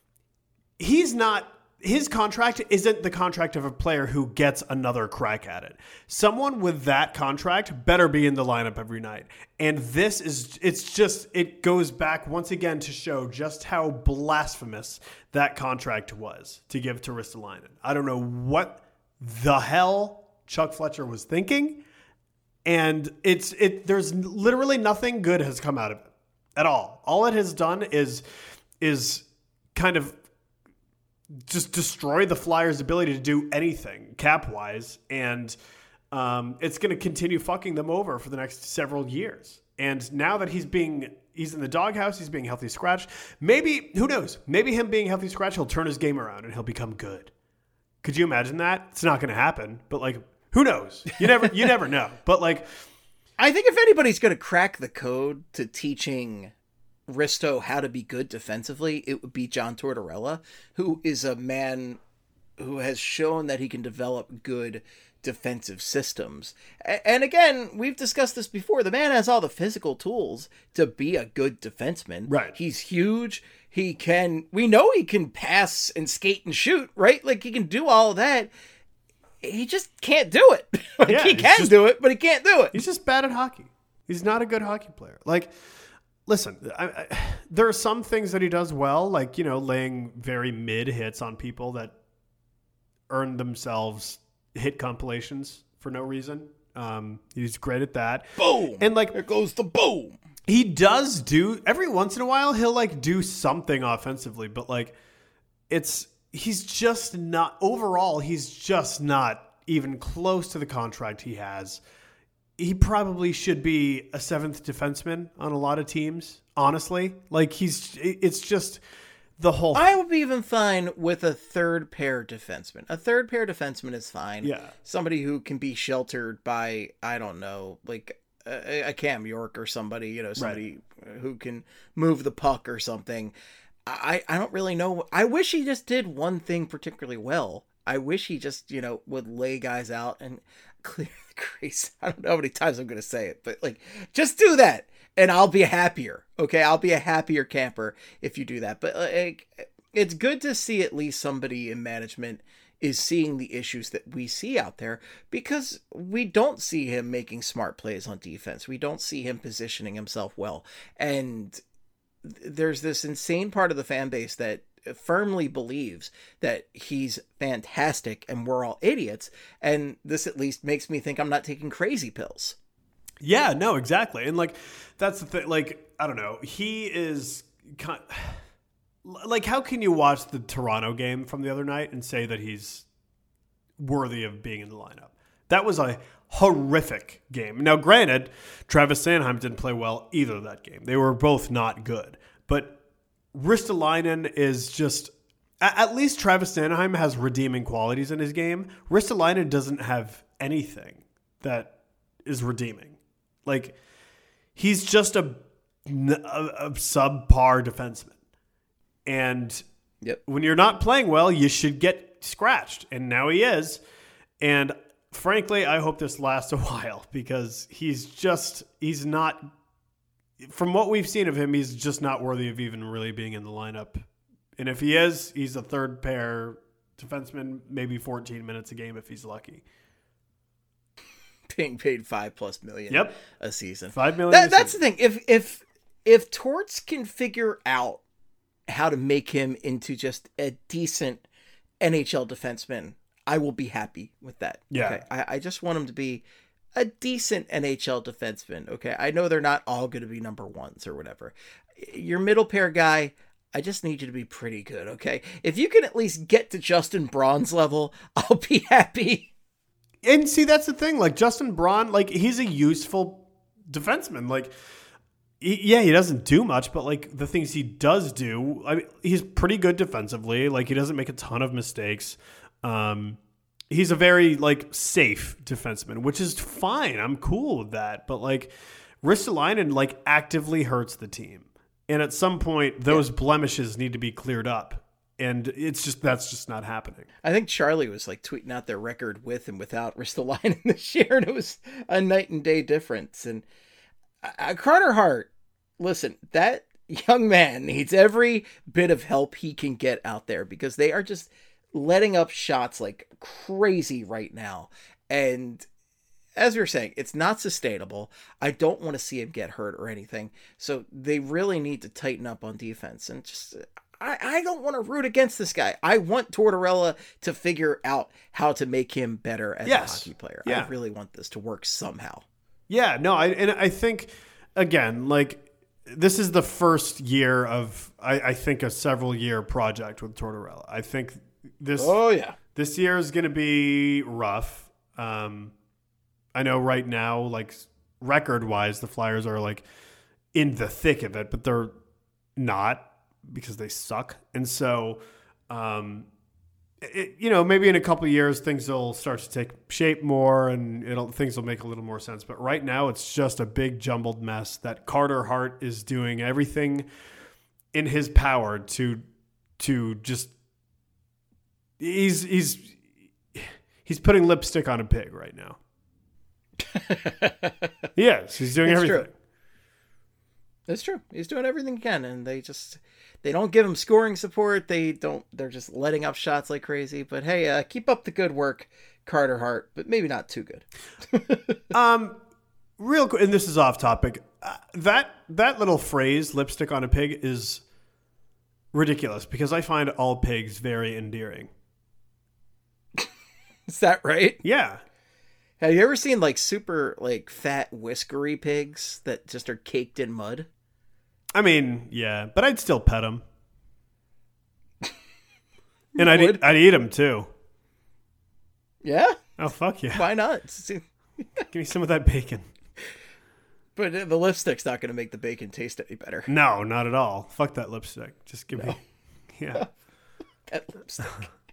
Speaker 4: His contract isn't the contract of a player who gets another crack at it. Someone with that contract better be in the lineup every night. And it goes back once again to show just how blasphemous that contract was to give to Ristolainen. I don't know what the hell Chuck Fletcher was thinking. And there's literally nothing good has come out of it at all. All it has done is kind of just destroy the Flyers' ability to do anything cap-wise, and it's going to continue fucking them over for the next several years. And now that he's in the doghouse, he's being healthy scratched. Maybe, who knows? Maybe him being healthy scratched, he'll turn his game around and he'll become good. Could you imagine that? It's not going to happen, but like, who knows? You never know. But like,
Speaker 3: I think if anybody's going to crack the code to teaching Risto how to be good defensively, it would be John Tortorella, who is a man who has shown that he can develop good defensive systems. And again, we've discussed this before. The man has all the physical tools to be a good defenseman.
Speaker 4: Right.
Speaker 3: He's huge. We know he can pass and skate and shoot, right? Like, he can do all of that. He just can't do it. He can do it, but he can't do it.
Speaker 4: He's just bad at hockey. He's not a good hockey player. Like, listen, there are some things that he does well, like, you know, laying very mid hits on people that earn themselves hit compilations for no reason. He's great at that.
Speaker 3: Boom!
Speaker 4: And like,
Speaker 3: there goes the boom.
Speaker 4: He does do, every once in a while, he'll like do something offensively, but like, he's just not even close to the contract he has. He probably should be a seventh defenseman on a lot of teams, honestly. Like, it's just the whole...
Speaker 3: I would be even fine with a third pair defenseman. A third pair defenseman is fine.
Speaker 4: Yeah.
Speaker 3: Somebody who can be sheltered by, I don't know, like a Cam York or somebody, you know, somebody who can move the puck or something. I don't really know. I wish he just did one thing particularly well. I wish he just, you know, would lay guys out, and clear the crease. I don't know how many times I'm going to say it, but like, just do that and I'll be happier. Okay. I'll be a happier camper if you do that. But like, it's good to see at least somebody in management is seeing the issues that we see out there, because we don't see him making smart plays on defense. We don't see him positioning himself well. And there's this insane part of the fan base that firmly believes that he's fantastic and we're all idiots. And this at least makes me think I'm not taking crazy pills.
Speaker 4: Yeah, no, exactly. And like, that's the thing. Like, I don't know. He is like, how can you watch the Toronto game from the other night and say that he's worthy of being in the lineup? That was a horrific game. Now, granted, Travis Sanheim didn't play well either that game. They were both not good. But Ristolainen is just, at least Travis Sanheim has redeeming qualities in his game. Ristolainen doesn't have anything that is redeeming. Like, he's just a subpar defenseman. And when you're not playing well, you should get scratched. And now he is. And frankly, I hope this lasts a while, because he's not, from what we've seen of him, he's just not worthy of even really being in the lineup. And if he is, he's a third pair defenseman, maybe 14 minutes a game if he's lucky.
Speaker 3: Being paid $5+ million a season.
Speaker 4: $5 million.
Speaker 3: That's the thing. If Torts can figure out how to make him into just a decent NHL defenseman, I will be happy with that.
Speaker 4: Yeah.
Speaker 3: Okay? I just want him to be a decent NHL defenseman. Okay. I know they're not all going to be number ones or whatever. Your middle pair guy, I just need you to be pretty good. Okay. If you can at least get to Justin Braun's level, I'll be happy.
Speaker 4: And see, that's the thing. Like, Justin Braun, like, he's a useful defenseman. Like, he doesn't do much, but like the things he does do, I mean, he's pretty good defensively. Like, he doesn't make a ton of mistakes. He's a very like safe defenseman, which is fine. I'm cool with that. But like, Ristolainen like actively hurts the team, and at some point, those blemishes need to be cleared up. And that's just not happening.
Speaker 3: I think Charlie was like tweeting out their record with and without Ristolainen this year, and it was a night and day difference. And Carter Hart, listen, that young man needs every bit of help he can get out there, because they are just letting up shots like crazy right now. And as we were saying, it's not sustainable. I don't want to see him get hurt or anything. So they really need to tighten up on defense. And just, I don't want to root against this guy. I want Tortorella to figure out how to make him better as a hockey player.
Speaker 4: Yeah.
Speaker 3: I really want this to work somehow.
Speaker 4: Yeah, no, I think, again, like, this is the first year of, I think, a several-year project with Tortorella. I think this year is going to be rough. I know right now, like, record-wise, the Flyers are, like, in the thick of it, but they're not, because they suck. And so, maybe in a couple of years, things will start to take shape more, and things will make a little more sense. But right now, it's just a big jumbled mess that Carter Hart is doing everything in his power to just, he's putting lipstick on a pig right now. Yes, he's doing everything.
Speaker 3: True. It's true. He's doing everything he can, and they don't give him scoring support. They're just letting up shots like crazy. But hey, keep up the good work, Carter Hart, but maybe not too good.
Speaker 4: Real quick, and this is off topic. That little phrase, lipstick on a pig, is ridiculous, because I find all pigs very endearing.
Speaker 3: Is that right?
Speaker 4: Yeah.
Speaker 3: Have you ever seen like super like fat whiskery pigs that just are caked in mud?
Speaker 4: I mean, yeah, but I'd still pet them. And I'd eat them too.
Speaker 3: Yeah?
Speaker 4: Oh, fuck yeah.
Speaker 3: Why not?
Speaker 4: Give me some of that bacon.
Speaker 3: But the lipstick's not going to make the bacon taste any better.
Speaker 4: No, not at all. Fuck that lipstick. Just give me... Yeah.
Speaker 3: That lipstick.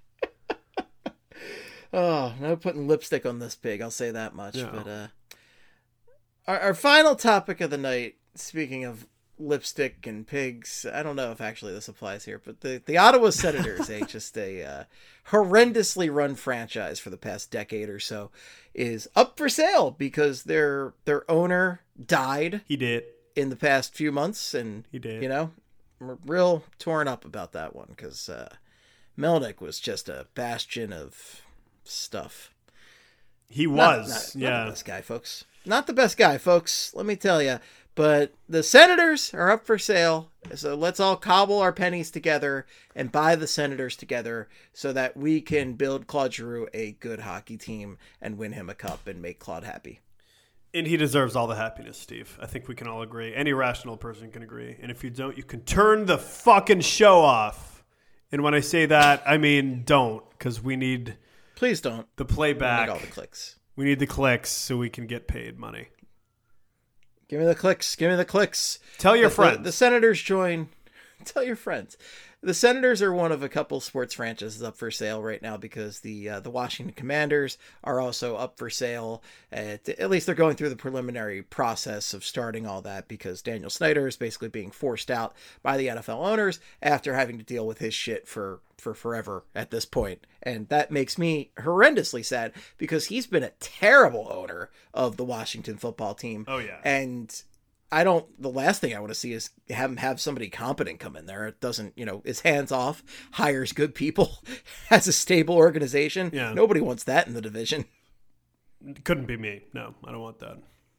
Speaker 3: Oh, no putting lipstick on this pig, I'll say that much. No. But our final topic of the night, speaking of lipstick and pigs. I don't know if actually this applies here, but the Ottawa Senators, just a horrendously run franchise for the past decade or so, is up for sale because their owner died.
Speaker 4: He did.
Speaker 3: In the past few months, and
Speaker 4: he did.
Speaker 3: We're real torn up about that one because Melnyk was just a bastion of stuff.
Speaker 4: He was,
Speaker 3: not the best guy, folks. Not the best guy, folks. Let me tell you. But the Senators are up for sale, so let's all cobble our pennies together and buy the Senators together so that we can build Claude Giroux a good hockey team and win him a cup and make Claude happy.
Speaker 4: And he deserves all the happiness, Steve. I think we can all agree. Any rational person can agree. And if you don't, you can turn the fucking show off. And when I say that, I mean don't, because we need...
Speaker 3: Please don't.
Speaker 4: The playback.
Speaker 3: We need all the clicks.
Speaker 4: We need the clicks so we can get paid money.
Speaker 3: Give me the clicks. Give me the clicks.
Speaker 4: Tell your friends.
Speaker 3: The Senators join. Tell your friends. The Senators are one of a couple sports franchises up for sale right now because the Washington Commanders are also up for sale. At least they're going through the preliminary process of starting all that because Daniel Snyder is basically being forced out by the NFL owners after having to deal with his shit for forever at this point. And that makes me horrendously sad because he's been a terrible owner of the Washington football team.
Speaker 4: Oh, yeah.
Speaker 3: And the last thing I want to see is have somebody competent come in there. It doesn't, is hands off, hires good people, has a stable organization.
Speaker 4: Yeah.
Speaker 3: Nobody wants that in the division.
Speaker 4: It couldn't be me. No, I don't want that.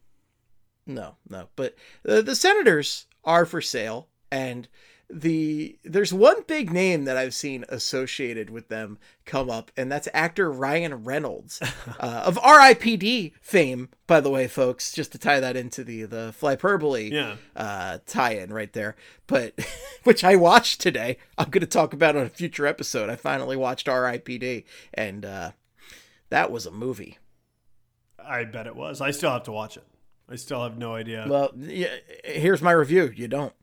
Speaker 3: No. But the Senators are for sale, and there's one big name that I've seen associated with them come up, and that's actor Ryan Reynolds of R.I.P.D. fame, by the way, folks, just to tie that into the Flyperbole tie-in right there, but which I watched today. I'm going to talk about on a future episode. I finally watched R.I.P.D. and that was a movie.
Speaker 4: I bet it was. I still have to watch it. I still have no idea.
Speaker 3: Well, here's my review. You don't.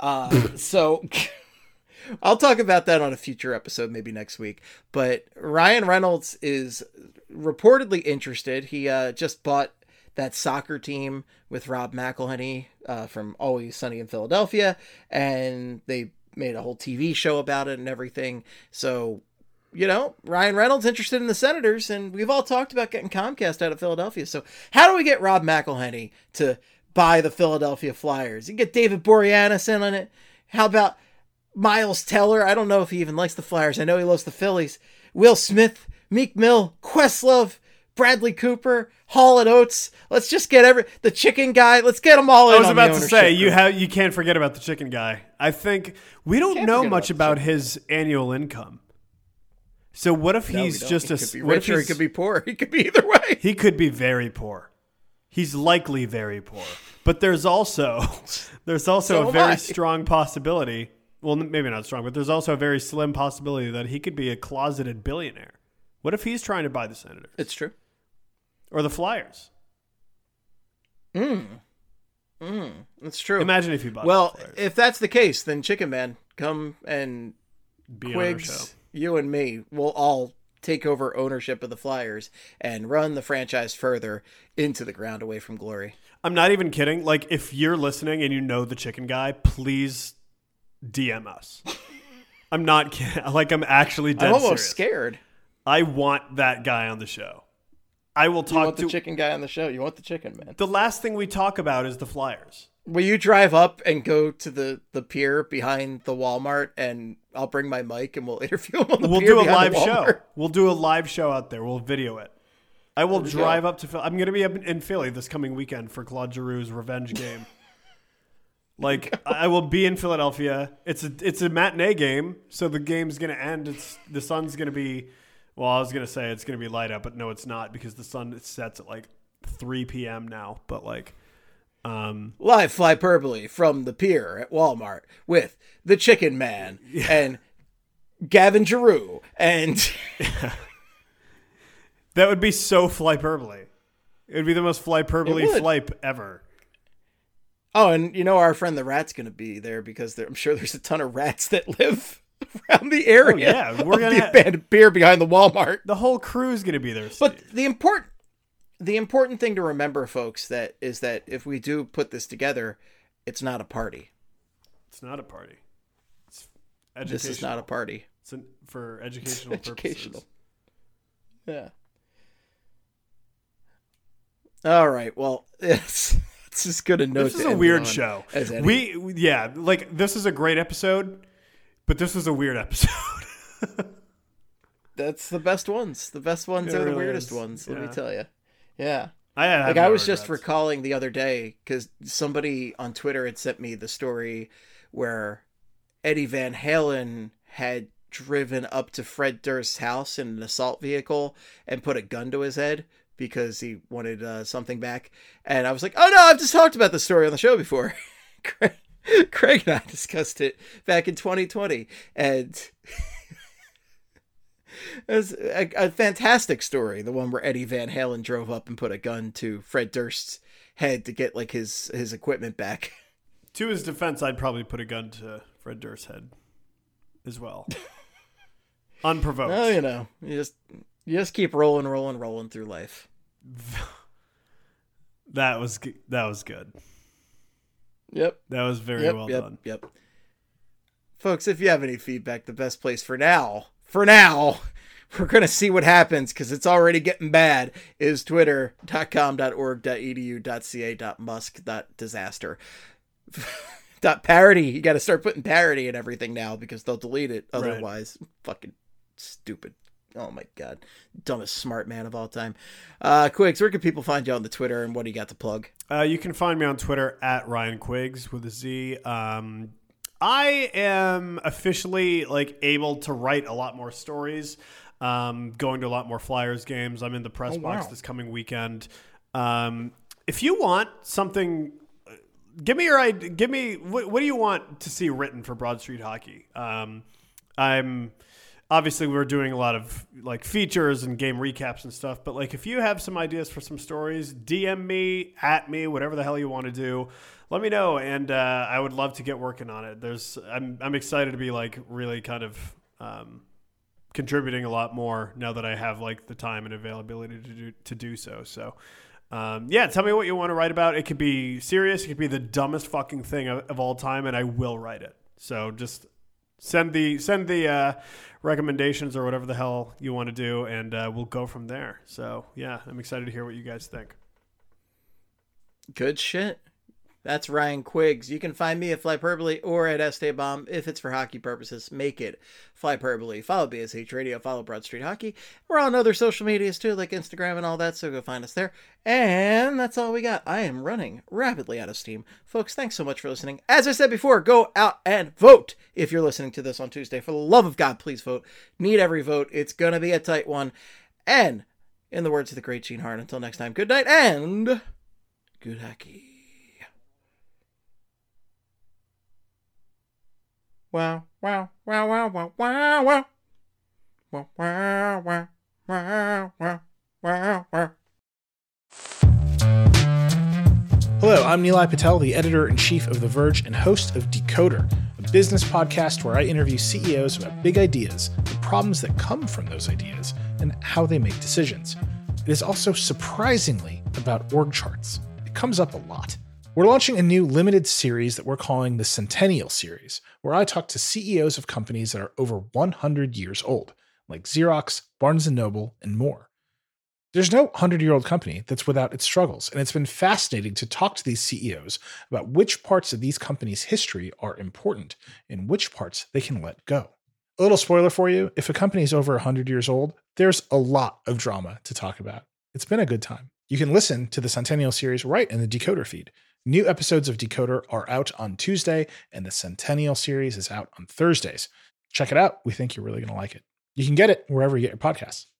Speaker 3: So I'll talk about that on a future episode, maybe next week. But Ryan Reynolds is reportedly interested. He just bought that soccer team with Rob McElhenney from Always Sunny in Philadelphia, and they made a whole TV show about it and everything. So, Ryan Reynolds interested in the Senators, and we've all talked about getting Comcast out of Philadelphia. So how do we get Rob McElhenney to buy the Philadelphia Flyers? You get David Boreanaz in on it. How about Miles Teller? I don't know if he even likes the Flyers. I know he loves the Phillies. Will Smith, Meek Mill, Questlove, Bradley Cooper, Hall and Oates. Let's just get the chicken guy. Let's get them all in.
Speaker 4: I was about to say you can't forget about the chicken guy. I think we don't know much about his annual income. So what if he's just
Speaker 3: he could be rich or he could be poor? He could be either way.
Speaker 4: He could be very poor. He's likely very poor. But there's also a very strong possibility. Well, maybe not strong, but there's also a very slim possibility that he could be a closeted billionaire. What if he's trying to buy the Senators?
Speaker 3: It's true.
Speaker 4: Or the Flyers?
Speaker 3: That's true.
Speaker 4: Imagine if he bought
Speaker 3: the
Speaker 4: Flyers.
Speaker 3: If that's the case, then Chicken Man, come and
Speaker 4: be on our show.
Speaker 3: Quigs, you and me will all take over ownership of the Flyers and run the franchise further into the ground away from glory.
Speaker 4: I'm not even kidding. Like, if you're listening and you know the chicken guy, please DM us. I'm not kidding. Like, I'm actually dead serious.
Speaker 3: I'm almost scared.
Speaker 4: I want that guy on the show. I will talk
Speaker 3: You want the chicken guy on the show. You want the chicken, man.
Speaker 4: The last thing we talk about is the Flyers.
Speaker 3: Will you drive up and go to the pier behind the Walmart, and I'll bring my mic and we'll interview him on the pier.
Speaker 4: We'll do a
Speaker 3: behind
Speaker 4: live
Speaker 3: the Walmart?
Speaker 4: show. We'll do a live show out there. We'll video it. I will drive up to Philly. I'm going to be up in Philly this coming weekend for Claude Giroux's revenge game. I will be in Philadelphia. It's a matinee game, so the game's going to end. The sun's going to be, well, I was going to say it's going to be light up, but no, it's not because the sun sets at 3 p.m. now. But
Speaker 3: live Flyperbole from the pier at Walmart with the Chicken Man and Gavin Giroux and
Speaker 4: that would be so Flyperbole. It would be the most Flyperbole flype ever.
Speaker 3: Oh, and our friend the Rat's going to be there because I'm sure there's a ton of rats that live around the area.
Speaker 4: Oh, yeah, we're going to
Speaker 3: abandoned pier behind the Walmart.
Speaker 4: The whole crew's going to be there, Steve.
Speaker 3: But the important thing to remember, folks, is that if we do put this together, it's not a party.
Speaker 4: It's not a party. It's
Speaker 3: This is not a party.
Speaker 4: It's for educational purposes.
Speaker 3: Yeah. All right. Well, it's as good a note.
Speaker 4: This is a weird show. Like this is a great episode, but this is a weird episode.
Speaker 3: That's the best ones. The best ones are the weirdest ones. Let me tell you. Yeah. I was just recalling the other day because somebody on Twitter had sent me the story where Eddie Van Halen had driven up to Fred Durst's house in an assault vehicle and put a gun to his head because he wanted something back. And I was like, oh no, I've just talked about the story on the show before. Craig and I discussed it back in 2020. And it was a fantastic story. The one where Eddie Van Halen drove up and put a gun to Fred Durst's head to get like his equipment back.
Speaker 4: To his defense, I'd probably put a gun to Fred Durst's head as well. Unprovoked.
Speaker 3: Oh, you just keep rolling through life.
Speaker 4: That was good.
Speaker 3: Yep.
Speaker 4: That was very well done.
Speaker 3: Yep. Folks, if you have any feedback, the best place for now, we're going to see what happens because it's already getting bad, is twitter.com.org.edu.ca.musk.disaster. .parody. You got to start putting parody and everything now because they'll delete it otherwise. Right. Fucking stupid. Oh my God. Dumbest smart man of all time. Quiggs, where can people find you on the Twitter and what do you got to plug?
Speaker 4: You can find me on Twitter at Ryan Quiggs with a Z. I am officially able to write a lot more stories. Going to a lot more Flyers games. I'm in the press box this coming weekend. If you want something, give me your idea. Give me what do you want to see written for Broad Street Hockey? Obviously we're doing a lot of features and game recaps and stuff, but if you have some ideas for some stories, DM me, at me, whatever the hell you want to do. Let me know, and I would love to get working on it. I'm excited to be really kind of contributing a lot more now that I have the time and availability to do so. So, tell me what you want to write about. It could be serious. It could be the dumbest fucking thing of all time, and I will write it. So just send the recommendations or whatever the hell you want to do, and we'll go from there. So yeah, I'm excited to hear what you guys think.
Speaker 3: Good shit. That's Ryan Quiggs. You can find me at Flyperbole or at Esteban. If it's for hockey purposes, make it Flyperbole. Follow BSH Radio. Follow Broad Street Hockey. We're on other social medias too, like Instagram and all that, so go find us there. And that's all we got. I am running rapidly out of steam. Folks, thanks so much for listening. As I said before, go out and vote. If you're listening to this on Tuesday, for the love of God, please vote. Need every vote. It's going to be a tight one. And in the words of the great Gene Hart, until next time, good night and good hockey. Wow, wow, wow, wow, wow, wow, wow. Wow, wow, wow, wow, wow, wow, wow.
Speaker 12: Hello, I'm Nilay Patel, the editor-in-chief of The Verge and host of Decoder, a business podcast where I interview CEOs about big ideas, the problems that come from those ideas, and how they make decisions. It is also surprisingly about org charts. It comes up a lot. We're launching a new limited series that we're calling the Centennial Series, where I talk to CEOs of companies that are over 100 years old, like Xerox, Barnes & Noble, and more. There's no 100-year-old company that's without its struggles, and it's been fascinating to talk to these CEOs about which parts of these companies' history are important and which parts they can let go. A little spoiler for you, if a company is over 100 years old, there's a lot of drama to talk about. It's been a good time. You can listen to the Centennial Series right in the Decoder feed. New episodes of Decoder are out on Tuesday, and the Centennial Series is out on Thursdays. Check it out. We think you're really going to like it. You can get it wherever you get your podcasts.